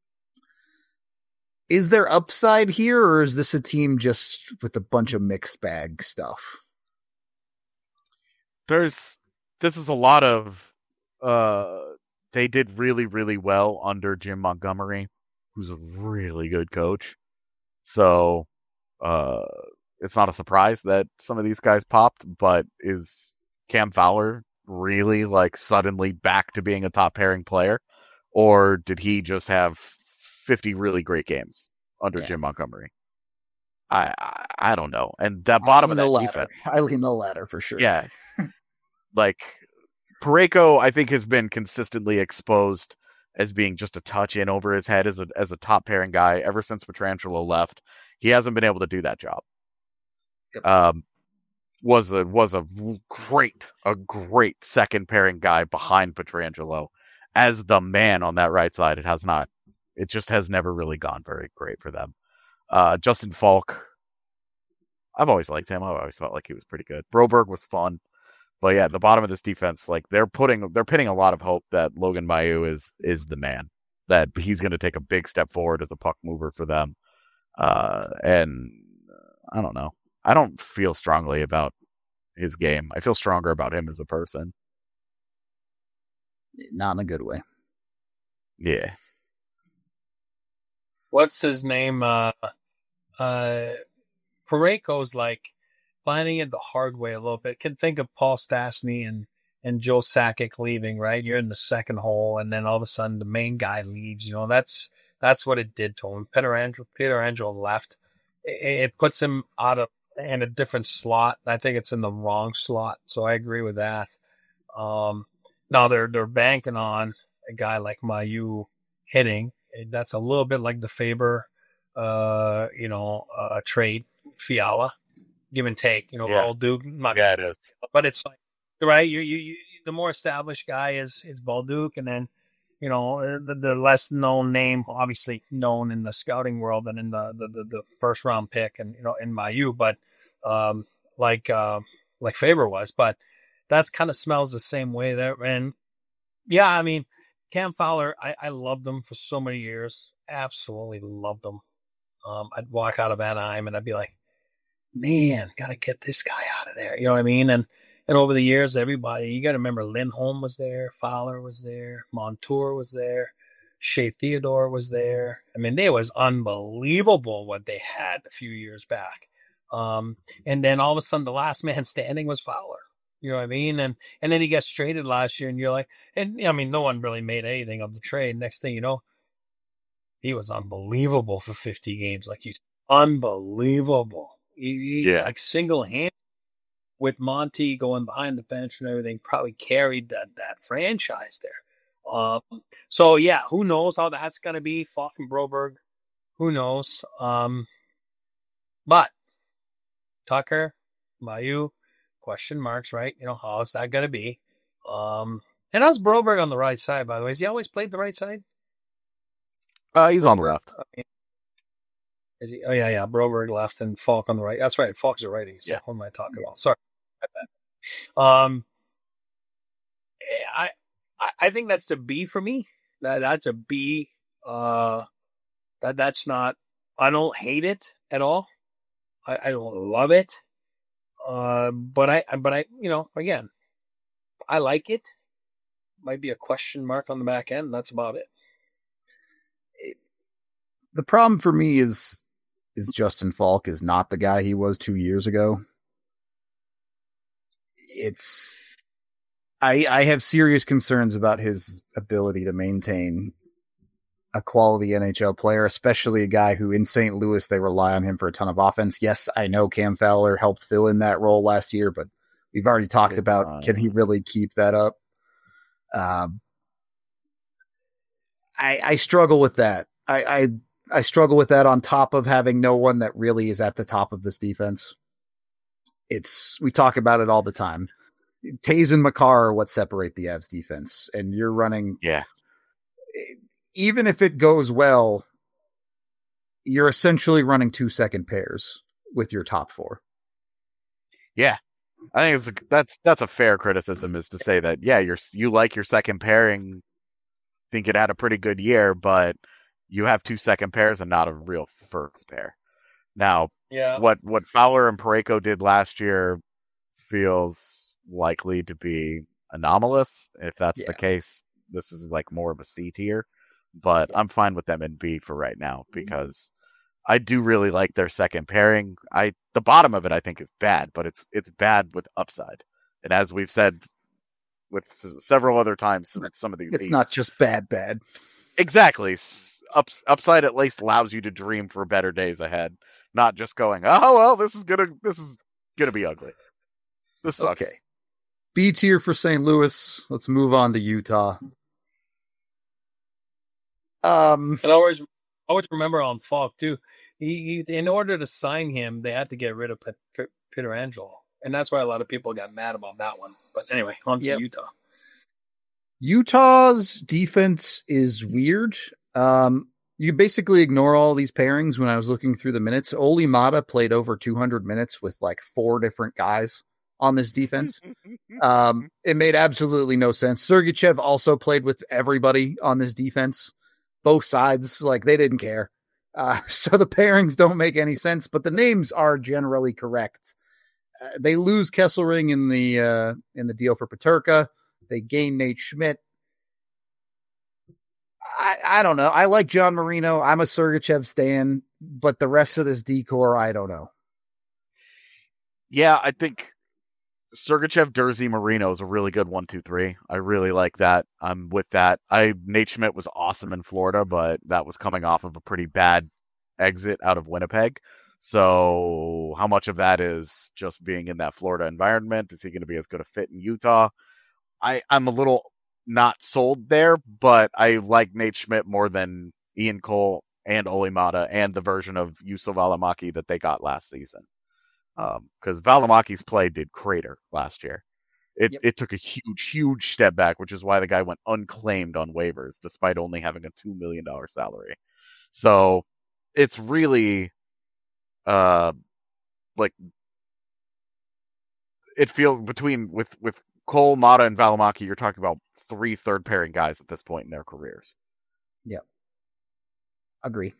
Is there upside here, or is this a team just with a bunch of mixed bag stuff? There's, this is a lot of, uh, they did really, really well under Jim Montgomery, who's a really good coach. So, uh, it's not a surprise that some of these guys popped, but is Cam Fowler really like suddenly back to being a top pairing player? Or did he just have fifty really great games under Yeah. Jim Montgomery? I, I I don't know. And that bottom of the that ladder. defense. I lean the ladder for sure. Yeah. Like Parayko, I think, has been consistently exposed as being just a touch in over his head as a as a top pairing guy ever since Pietrangelo left. He hasn't been able to do that job. Yep. Um, was a was a great a great second pairing guy behind Pietrangelo as the man on that right side. It has not. It just has never really gone very great for them. Uh, Justin Falk, I've always liked him. I've always felt like he was pretty good. Broberg was fun. But yeah, the bottom of this defense, like they're putting, they're pinning a lot of hope that Logan Mailloux is is the man, that he's going to take a big step forward as a puck mover for them. Uh, and uh, I don't know, I don't feel strongly about his game. I feel stronger about him as a person. Not in a good way. Yeah, What's his name? Uh, uh, Parayko's like finding it the hard way a little bit. Can think of Paul Stastny and, and Joe Sakic leaving, right? You're in the second hole, and then all of a sudden the main guy leaves. You know, that's that's what it did to him. Peter Angelo, Peter Angelo left. It, it puts him out of in a different slot. I think it's in the wrong slot, so I agree with that. Um, now they're they're banking on a guy like Mailloux hitting. That's a little bit like the Faber, uh, you know, uh, trade Fiala, give and take. You know, Yeah. Balduc. Not, Yeah, it is. but it's like right. You, you you the more established guy is is Balduc, and then you know the, the less known name, obviously known in the scouting world and in the the, the, the first round pick, and you know in Mailloux, but um, like uh, like Faber was, but that's kind of smells the same way there. And yeah, I mean. Cam Fowler, I, I loved him for so many years. Absolutely loved him. Um, I'd walk out of Anaheim and I'd be like, man, got to get this guy out of there. You know what I mean? And and over the years, everybody, you got to remember Lindholm was there, Fowler was there, Montour was there, Shea Theodore was there. I mean, it was unbelievable what they had a few years back. Um, and then all of a sudden, the last man standing was Fowler. You know what I mean? And and then he gets traded last year, and you're like, and I mean, no one really made anything of the trade. Next thing you know, he was unbelievable for fifty games, like you said. Unbelievable. He, he, Yeah. like single hand with Monty going behind the bench and everything, probably carried that that franchise there. Um, so yeah, who knows how that's gonna be? Falk and Broberg, who knows? Um, but Tucker, Mailloux. Question marks, right? You know, how is that going to be? Um, and how's Broberg on the right side, by the way? Has he always played the right side? Uh, he's on the left. I mean, is he? Oh, yeah, yeah. Broberg left and Falk on the right. That's right. Falk's a righty. So Yeah. what am I talking about? Sorry. Um, I, I, I think that's a B for me. That That's a B. Uh, that That's not, I don't hate it at all. I, I don't love it. Uh, but I, but I, you know, again, I like it. Might be a question mark on the back end. That's about it. it. The problem for me is, is Justin Falk is not the guy he was two years ago. It's, I, I have serious concerns about his ability to maintain a quality N H L player, especially a guy who in Saint Louis, they rely on him for a ton of offense. Yes, I know Cam Fowler helped fill in that role last year, but we've already talked Good about, time. Can he really keep that up? Um, I, I struggle with that. I, I, I struggle with that on top of having no one that really is at the top of this defense. It's, we talk about it all the time. Taze and Makar are what separate the Avs defense, and you're running. Yeah. Even if it goes well, you're essentially running two second pairs with your top four. Yeah. I think it's a, that's that's a fair criticism, is to say that, yeah, you're you like your second pairing, think it had a pretty good year, but you have two second pairs and not a real first pair. Now, Yeah. what what Fowler and Parayko did last year feels likely to be anomalous. If that's Yeah. the case, this is like more of a C tier. But I'm fine with them in B for right now, because I do really like their second pairing. I the bottom of it I think is bad, but it's it's bad with upside. And as we've said with s- several other times with some of these It's leagues, not just bad, bad. exactly. S- Ups, upside at least allows you to dream for better days ahead, not just going, oh well, this is gonna this is gonna be ugly. This sucks. Okay. B tier for Saint Louis. Let's move on to Utah. Um, And I always, always remember on Falk too. He, he, in order to sign him, they had to get rid of Pet, Pet, Peter Angelo, and that's why a lot of people got mad about that one. But anyway, on to Yep. Utah. Utah's defense is weird. Um, you basically ignore all these pairings. When I was looking through the minutes, Oli Mata played over two hundred minutes with like four different guys on this defense. Um, it made absolutely no sense. Sergachev also played with everybody on this defense, both sides. Like, they didn't care. Uh, so the pairings don't make any sense, but the names are generally correct. Uh, they lose Kesselring in the uh, in the deal for Peterka. They gain Nate Schmidt. I, I don't know. I like John Marino. I'm a Sergachev stan, but the rest of this decor, I don't know. Yeah, I think Sergachev, Dursey, Marino is a really good one, two, three. I really like that. I'm with that. I Nate Schmidt was awesome in Florida, but that was coming off of a pretty bad exit out of Winnipeg. So how much of that is just being in that Florida environment? Is he going to be as good a fit in Utah? I, I'm a little not sold there, but I like Nate Schmidt more than Ian Cole and Olli Maatta and the version of Juuso Välimäki that they got last season. Because um, Välimäki's play did crater last year. It yep. it took a huge, huge step back, which is why the guy went unclaimed on waivers, despite only having a two million dollars salary. So it's really, uh, like, it feels between, with, with Cole, Maatta, and Välimäki, you're talking about three third pairing guys at this point in their careers. Yep. Agree.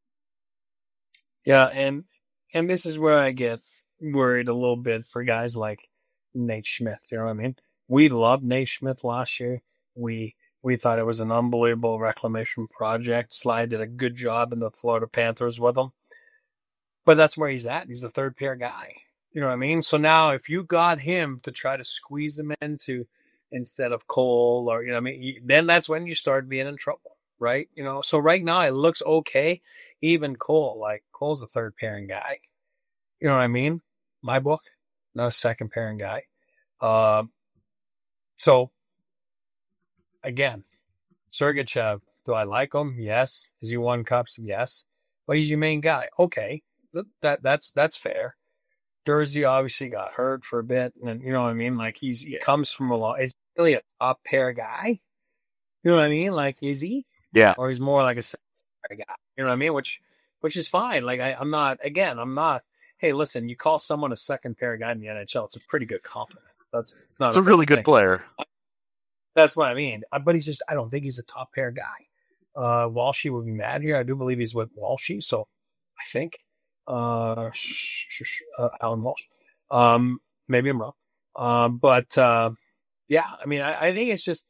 Yeah, and and this is where I get worried a little bit for guys like Nate Schmidt. You know what I mean? We loved Nate Schmidt last year. We we thought it was an unbelievable reclamation project. Sly did a good job in the Florida Panthers with him. But that's where he's at. He's the third pair guy. You know what I mean? So now if you got him to try to squeeze him into instead of Cole, or, you know what I mean, then that's when you start being in trouble, right? You know, so right now it looks okay. Even Cole, like Cole's a third pairing guy. You know what I mean? My book, not a second pairing guy. Uh, so again, Sergachev, do I like him? Yes. Has he won cups? Yes. But he's your main guy. Okay. That, that that's that's fair. Dursey obviously got hurt for a bit, and you know what I mean? Like he's he yeah. comes from a lot. Is he really a top pair guy? You know what I mean? Like, is he? Yeah. Or he's more like a second pair guy. You know what I mean? Which which is fine. Like I, I'm not again, I'm not hey, listen, you call someone a second pair guy in the N H L, it's a pretty good compliment. That's not it's a, a really good thing. player. That's what I mean. But he's just, I don't think he's a top pair guy. Uh, Walshy would be mad here. I do believe he's with Walshy, so I think uh, uh, Alan Walsh. Um, maybe I'm wrong. Um, but uh, yeah, I mean, I, I think it's just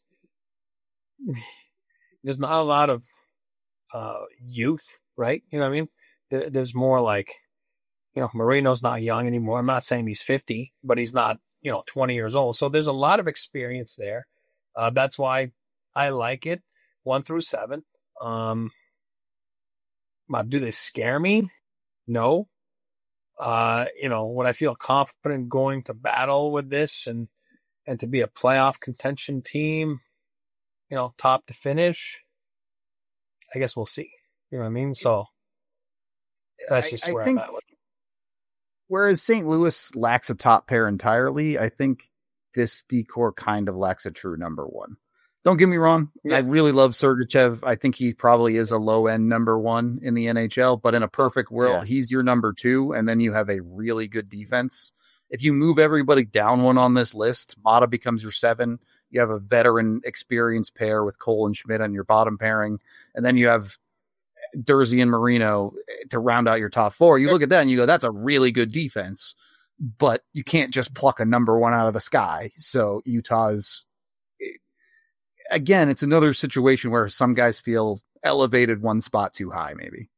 there's not a lot of uh, youth, right? You know what I mean? There, there's more like, you know, Marino's not young anymore. I'm not saying he's fifty, but he's not, you know, twenty years old. So there's a lot of experience there. Uh, that's why I like it. One through seven. Um, do they scare me? No. Uh, you know, would I feel confident going to battle with this and, and to be a playoff contention team, you know, top to finish? I guess we'll see. You know what I mean? So that's just I, where I think, I'm at with it. Whereas Saint Louis lacks a top pair entirely, I think this decor kind of lacks a true number one. Don't get me wrong. Yeah. I really love Sergachev. I think he probably is a low end number one in the N H L, but in a perfect world, yeah. he's your number two. And then you have a really good defense. If you move everybody down one on this list, Maatta becomes your seven. You have a veteran experienced pair with Cole and Schmidt on your bottom pairing. And then you have Dursey and Marino to round out your top four. You look at that and you go, that's a really good defense, but you can't just pluck a number one out of the sky. So Utah's, again, it's another situation where some guys feel elevated one spot too high, maybe.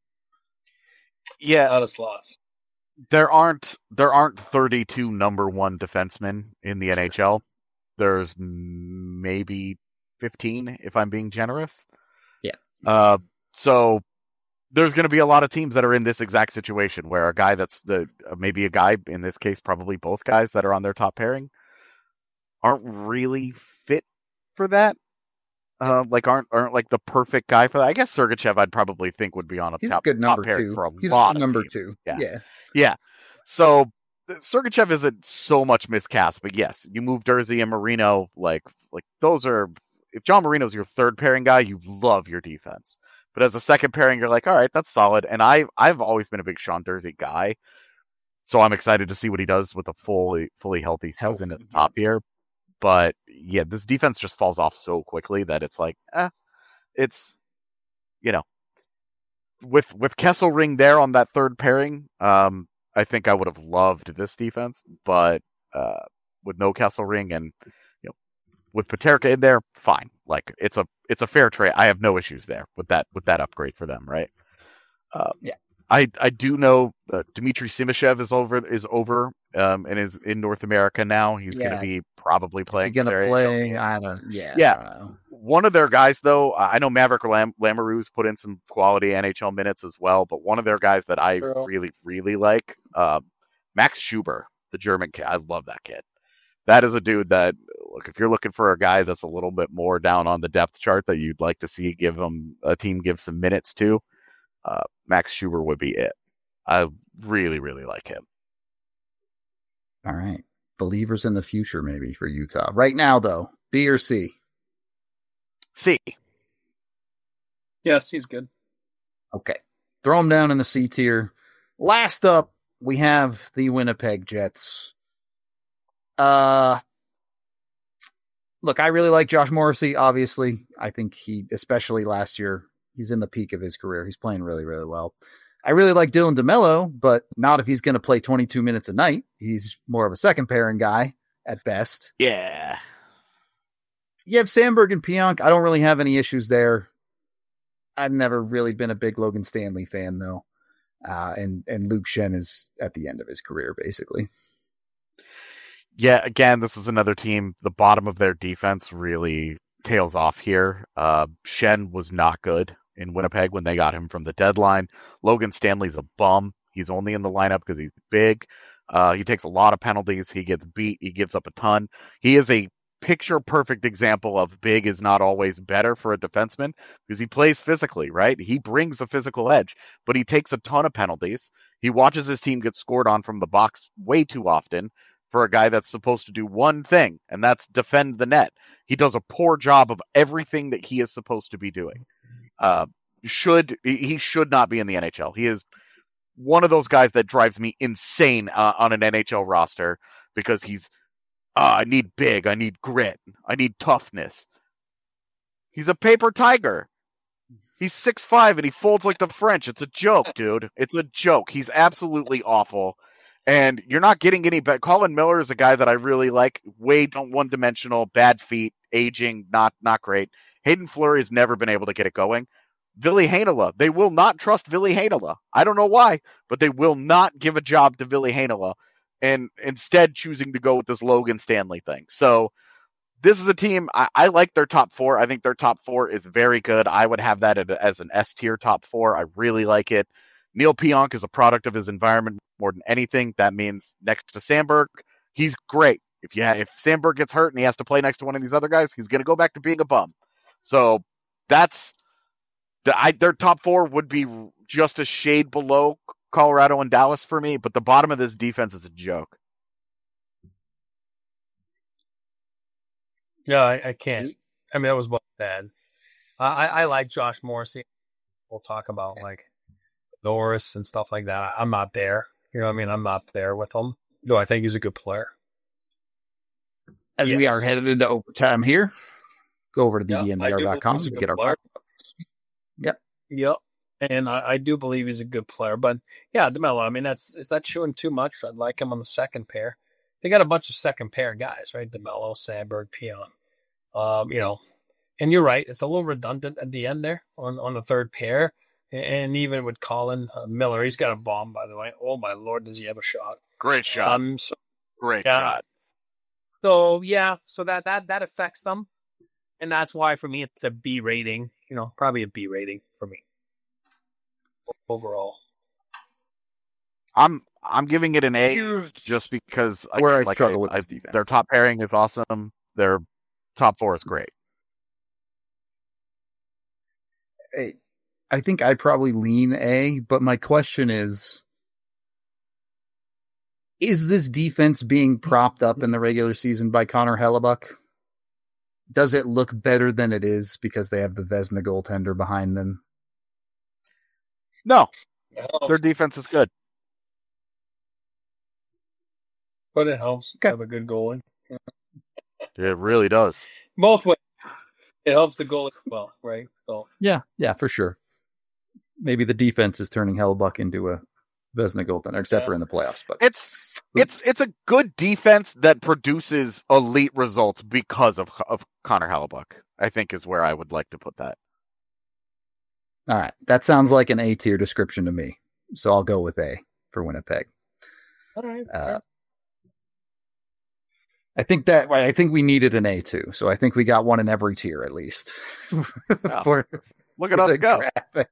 Yeah. Out of slots. There aren't, there aren't thirty-two number one defensemen in the N H L. There's maybe fifteen, if I'm being generous. Yeah. Uh, so there's going to be a lot of teams that are in this exact situation where a guy that's the, maybe a guy, in this case, probably both guys that are on their top pairing aren't really fit for that. Uh, like aren't aren't like the perfect guy for that. I guess Sergachev I'd probably think would be on a He's top, a good number top pair two. for a He's lot a of number teams. two. Yeah. yeah, yeah. So Sergachev isn't so much miscast, but yes, you move Dursey and Marino. Like like those are, if John Marino's your third pairing guy, you love your defense. But as a second pairing, you're like, all right, that's solid. And I I've always been a big Sean Dursey guy, so I'm excited to see what he does with a fully fully healthy season at the top here. But yeah, this defense just falls off so quickly that it's like, eh. It's, you know, with with Kesselring there on that third pairing, um, I think I would have loved this defense, but uh, with no Kesselring and, you know, with Peterka in there, fine. Like it's a it's a fair trade. I have no issues there with that with that upgrade for them, right? Uh, yeah. I I do know uh, Dmitry Simashev is over is over um, and is in North America now. He's Yeah. going to be probably playing. He's going for to their play. A H L. I don't. Yeah. Yeah. I don't know. One of their guys, though, I know Maverick Lam- Lamoureux's put in some quality N H L minutes as well, but one of their guys that I Girl. really, really like, uh, Max Schuber, the German kid. I love that kid. That is a dude that, look, if you're looking for a guy that's a little bit more down on the depth chart that you'd like to see give him a team give some minutes to, uh, Max Schuber would be it. I really, really like him. All right. Believers in the future, maybe, for Utah. Right now, though, B or C? C. Yes, he's good. Okay. Throw him down in the C tier. Last up, we have the Winnipeg Jets. Uh, look, I really like Josh Morrissey, obviously. I think he, especially last year, he's in the peak of his career. He's playing really, really well. I really like Dylan DeMello, but not if he's going to play twenty-two minutes a night. He's more of a second pairing guy at best. Yeah. You have Sandberg and Pionk. I don't really have any issues there. I've never really been a big Logan Stanley fan, though. Uh, and, and Luke Shen is at the end of his career, basically. Yeah, again, this is another team. The bottom of their defense really tails off here. Uh, Shen was not good in Winnipeg when they got him from the deadline. Logan Stanley's a bum. He's only in the lineup because he's big. Uh, he takes a lot of penalties. He gets beat. He gives up a ton. He is a picture-perfect example of big is not always better for a defenseman because he plays physically, right? He brings a physical edge, but he takes a ton of penalties. He watches his team get scored on from the box way too often for a guy that's supposed to do one thing, and that's defend the net. He does a poor job of everything that he is supposed to be doing. Uh, should he should not be in the N H L. He is one of those guys that drives me insane uh, on an N H L roster because he's, uh, I need big, I need grit, I need toughness. He's a paper tiger. He's six five and he folds like the French. It's a joke, dude. It's a joke. He's absolutely awful. And you're not getting any better. Colin Miller is a guy that I really like. Way one-dimensional, bad feet, aging, not not great. Hayden Fleury has never been able to get it going. Ville Heinola, they will not trust Ville Heinola. I don't know why, but they will not give a job to Ville Heinola, and instead choosing to go with this Logan Stanley thing. So this is a team, I, I like their top four. I think their top four is very good. I would have that as an S-tier top four. I really like it. Neil Pionk is a product of his environment more than anything. That means next to Sandberg, he's great. If you ha- if Sandberg gets hurt and he has to play next to one of these other guys, he's going to go back to being a bum. So that's the, I, their top four would be just a shade below Colorado and Dallas for me, but the bottom of this defense is a joke. Yeah, I, I can't. I mean, that was bad. I, I like Josh Morrissey. We'll talk about like Norris and stuff like that. I'm not there. You know what I mean? I'm not there with him. No, I think he's a good player. As Yes. we are headed into overtime here, go over to Yeah, D D N V I R do dot com believe he's a to good get our player. Yep. Yep. And I, I do believe he's a good player. But yeah, DeMello, I mean, that's is that showing too much? I'd like him on the second pair. They got a bunch of second pair guys, right? DeMello, Sandberg, Pion. Um, you know, and you're right. It's a little redundant at the end there on, on the third pair. And even with Colin uh, Miller, he's got a bomb, by the way. Oh, my Lord, does he have a shot? Great shot. Um, so, Great yeah. shot. So, yeah, so that, that, that affects them. And that's why, for me, it's a B rating. You know, probably a B rating for me overall. I'm I'm giving it an A Here's just because where I like struggle with I, this defense. Their top pairing is awesome. Their top four is great. I, I think I probably lean A, but my question is, is this defense being propped up in the regular season by Connor Hellebuck? Does it look better than it is because they have the Vezina goaltender behind them? No, It their defense is good. But it helps Okay. to have a good goalie. It really does. Both ways. It helps the goalie as well, right? So Yeah, yeah, for sure. Maybe the defense is turning Hellebuck into a Vezina goaltender, except Yeah. for in the playoffs. But It's it's it's a good defense that produces elite results because of of Connor Hellebuck. I think is where I would like to put that. all right, that sounds like an A tier description to me. So I'll go with A for Winnipeg. All right. Uh, I think that I think we needed an A too. So I think we got one in every tier at least. Yeah. for, Look at us go. Graphic.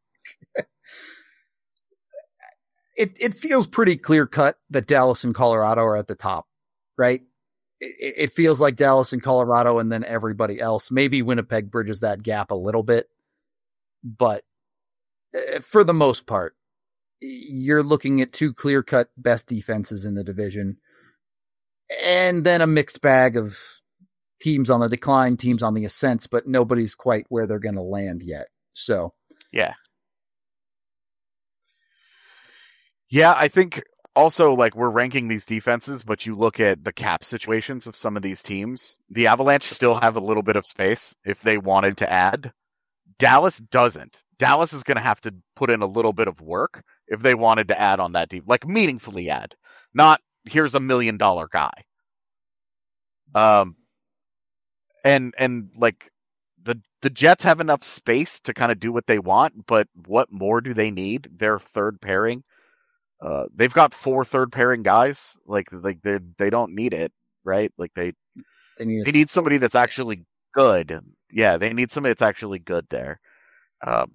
It it feels pretty clear cut that Dallas and Colorado are at the top, right? It, it feels like Dallas and Colorado and then everybody else. Maybe Winnipeg bridges that gap a little bit, but for the most part, you're looking at two clear cut best defenses in the division, and then a mixed bag of teams on the decline, teams on the ascent, but nobody's quite where they're going to land yet. So, yeah. Yeah, I think also, like, we're ranking these defenses, but you look at the cap situations of some of these teams. The Avalanche still have a little bit of space if they wanted to add. Dallas doesn't. Dallas is going to have to put in a little bit of work if they wanted to add on that deep, like meaningfully add. Not, here's a million dollar guy. Um, and, and like, the, the Jets have enough space to kind of do what they want, but what more do they need? Their third pairing. Uh, they've got four third pairing guys. Like, like they they don't need it, right? Like they they need, they need somebody that's actually good. Yeah, they need somebody that's actually good there. Um,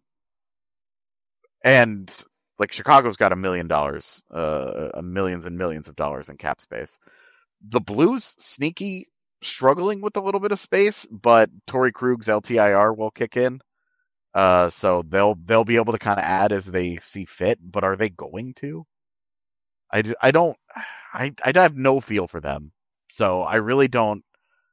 and like Chicago's got a million dollars, uh, millions and millions of dollars in cap space. The Blues sneaky struggling with a little bit of space, but Torrey Krug's L T I R will kick in. Uh, so they'll they'll be able to kind of add as they see fit. But are they going to? I, I don't, I, I have no feel for them. So I really don't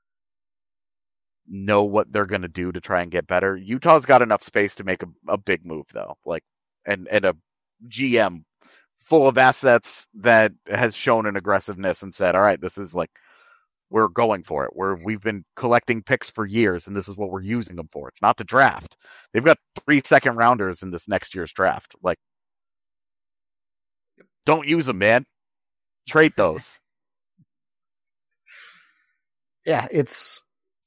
know what they're going to do to try and get better. Utah's got enough space to make a, a big move though. Like, and, and a G M full of assets that has shown an aggressiveness and said, all right, this is like, we're going for it. We're, we've been collecting picks for years and this is what we're using them for. It's not to draft. They've got three second rounders in this next year's draft. Like, don't use them, man. Trade those. Yeah, it's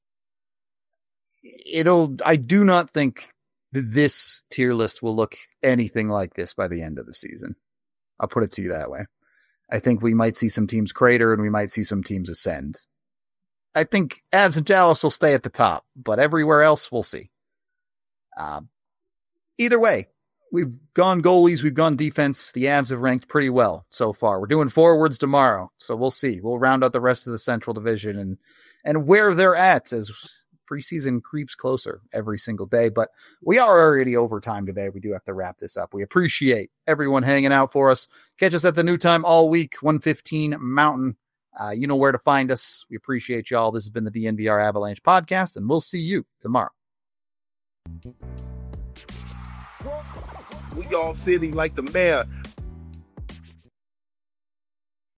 it'll. I do not think that this tier list will look anything like this by the end of the season. I'll put it to you that way. I think we might see some teams crater and we might see some teams ascend. I think Avs and Dallas will stay at the top, but everywhere else we'll see. Um, either way. We've gone goalies, we've gone defense. The Avs have ranked pretty well so far. We're doing forwards tomorrow, so we'll see. We'll round out the rest of the Central Division and and where they're at as preseason creeps closer every single day. But we are already over time today. We do have to wrap this up. We appreciate everyone hanging out for us. Catch us at the new time all week, one fifteen Mountain. Uh, you know where to find us. We appreciate y'all. This has been the D N V R Avalanche podcast, and we'll see you tomorrow. We all sitting like the mayor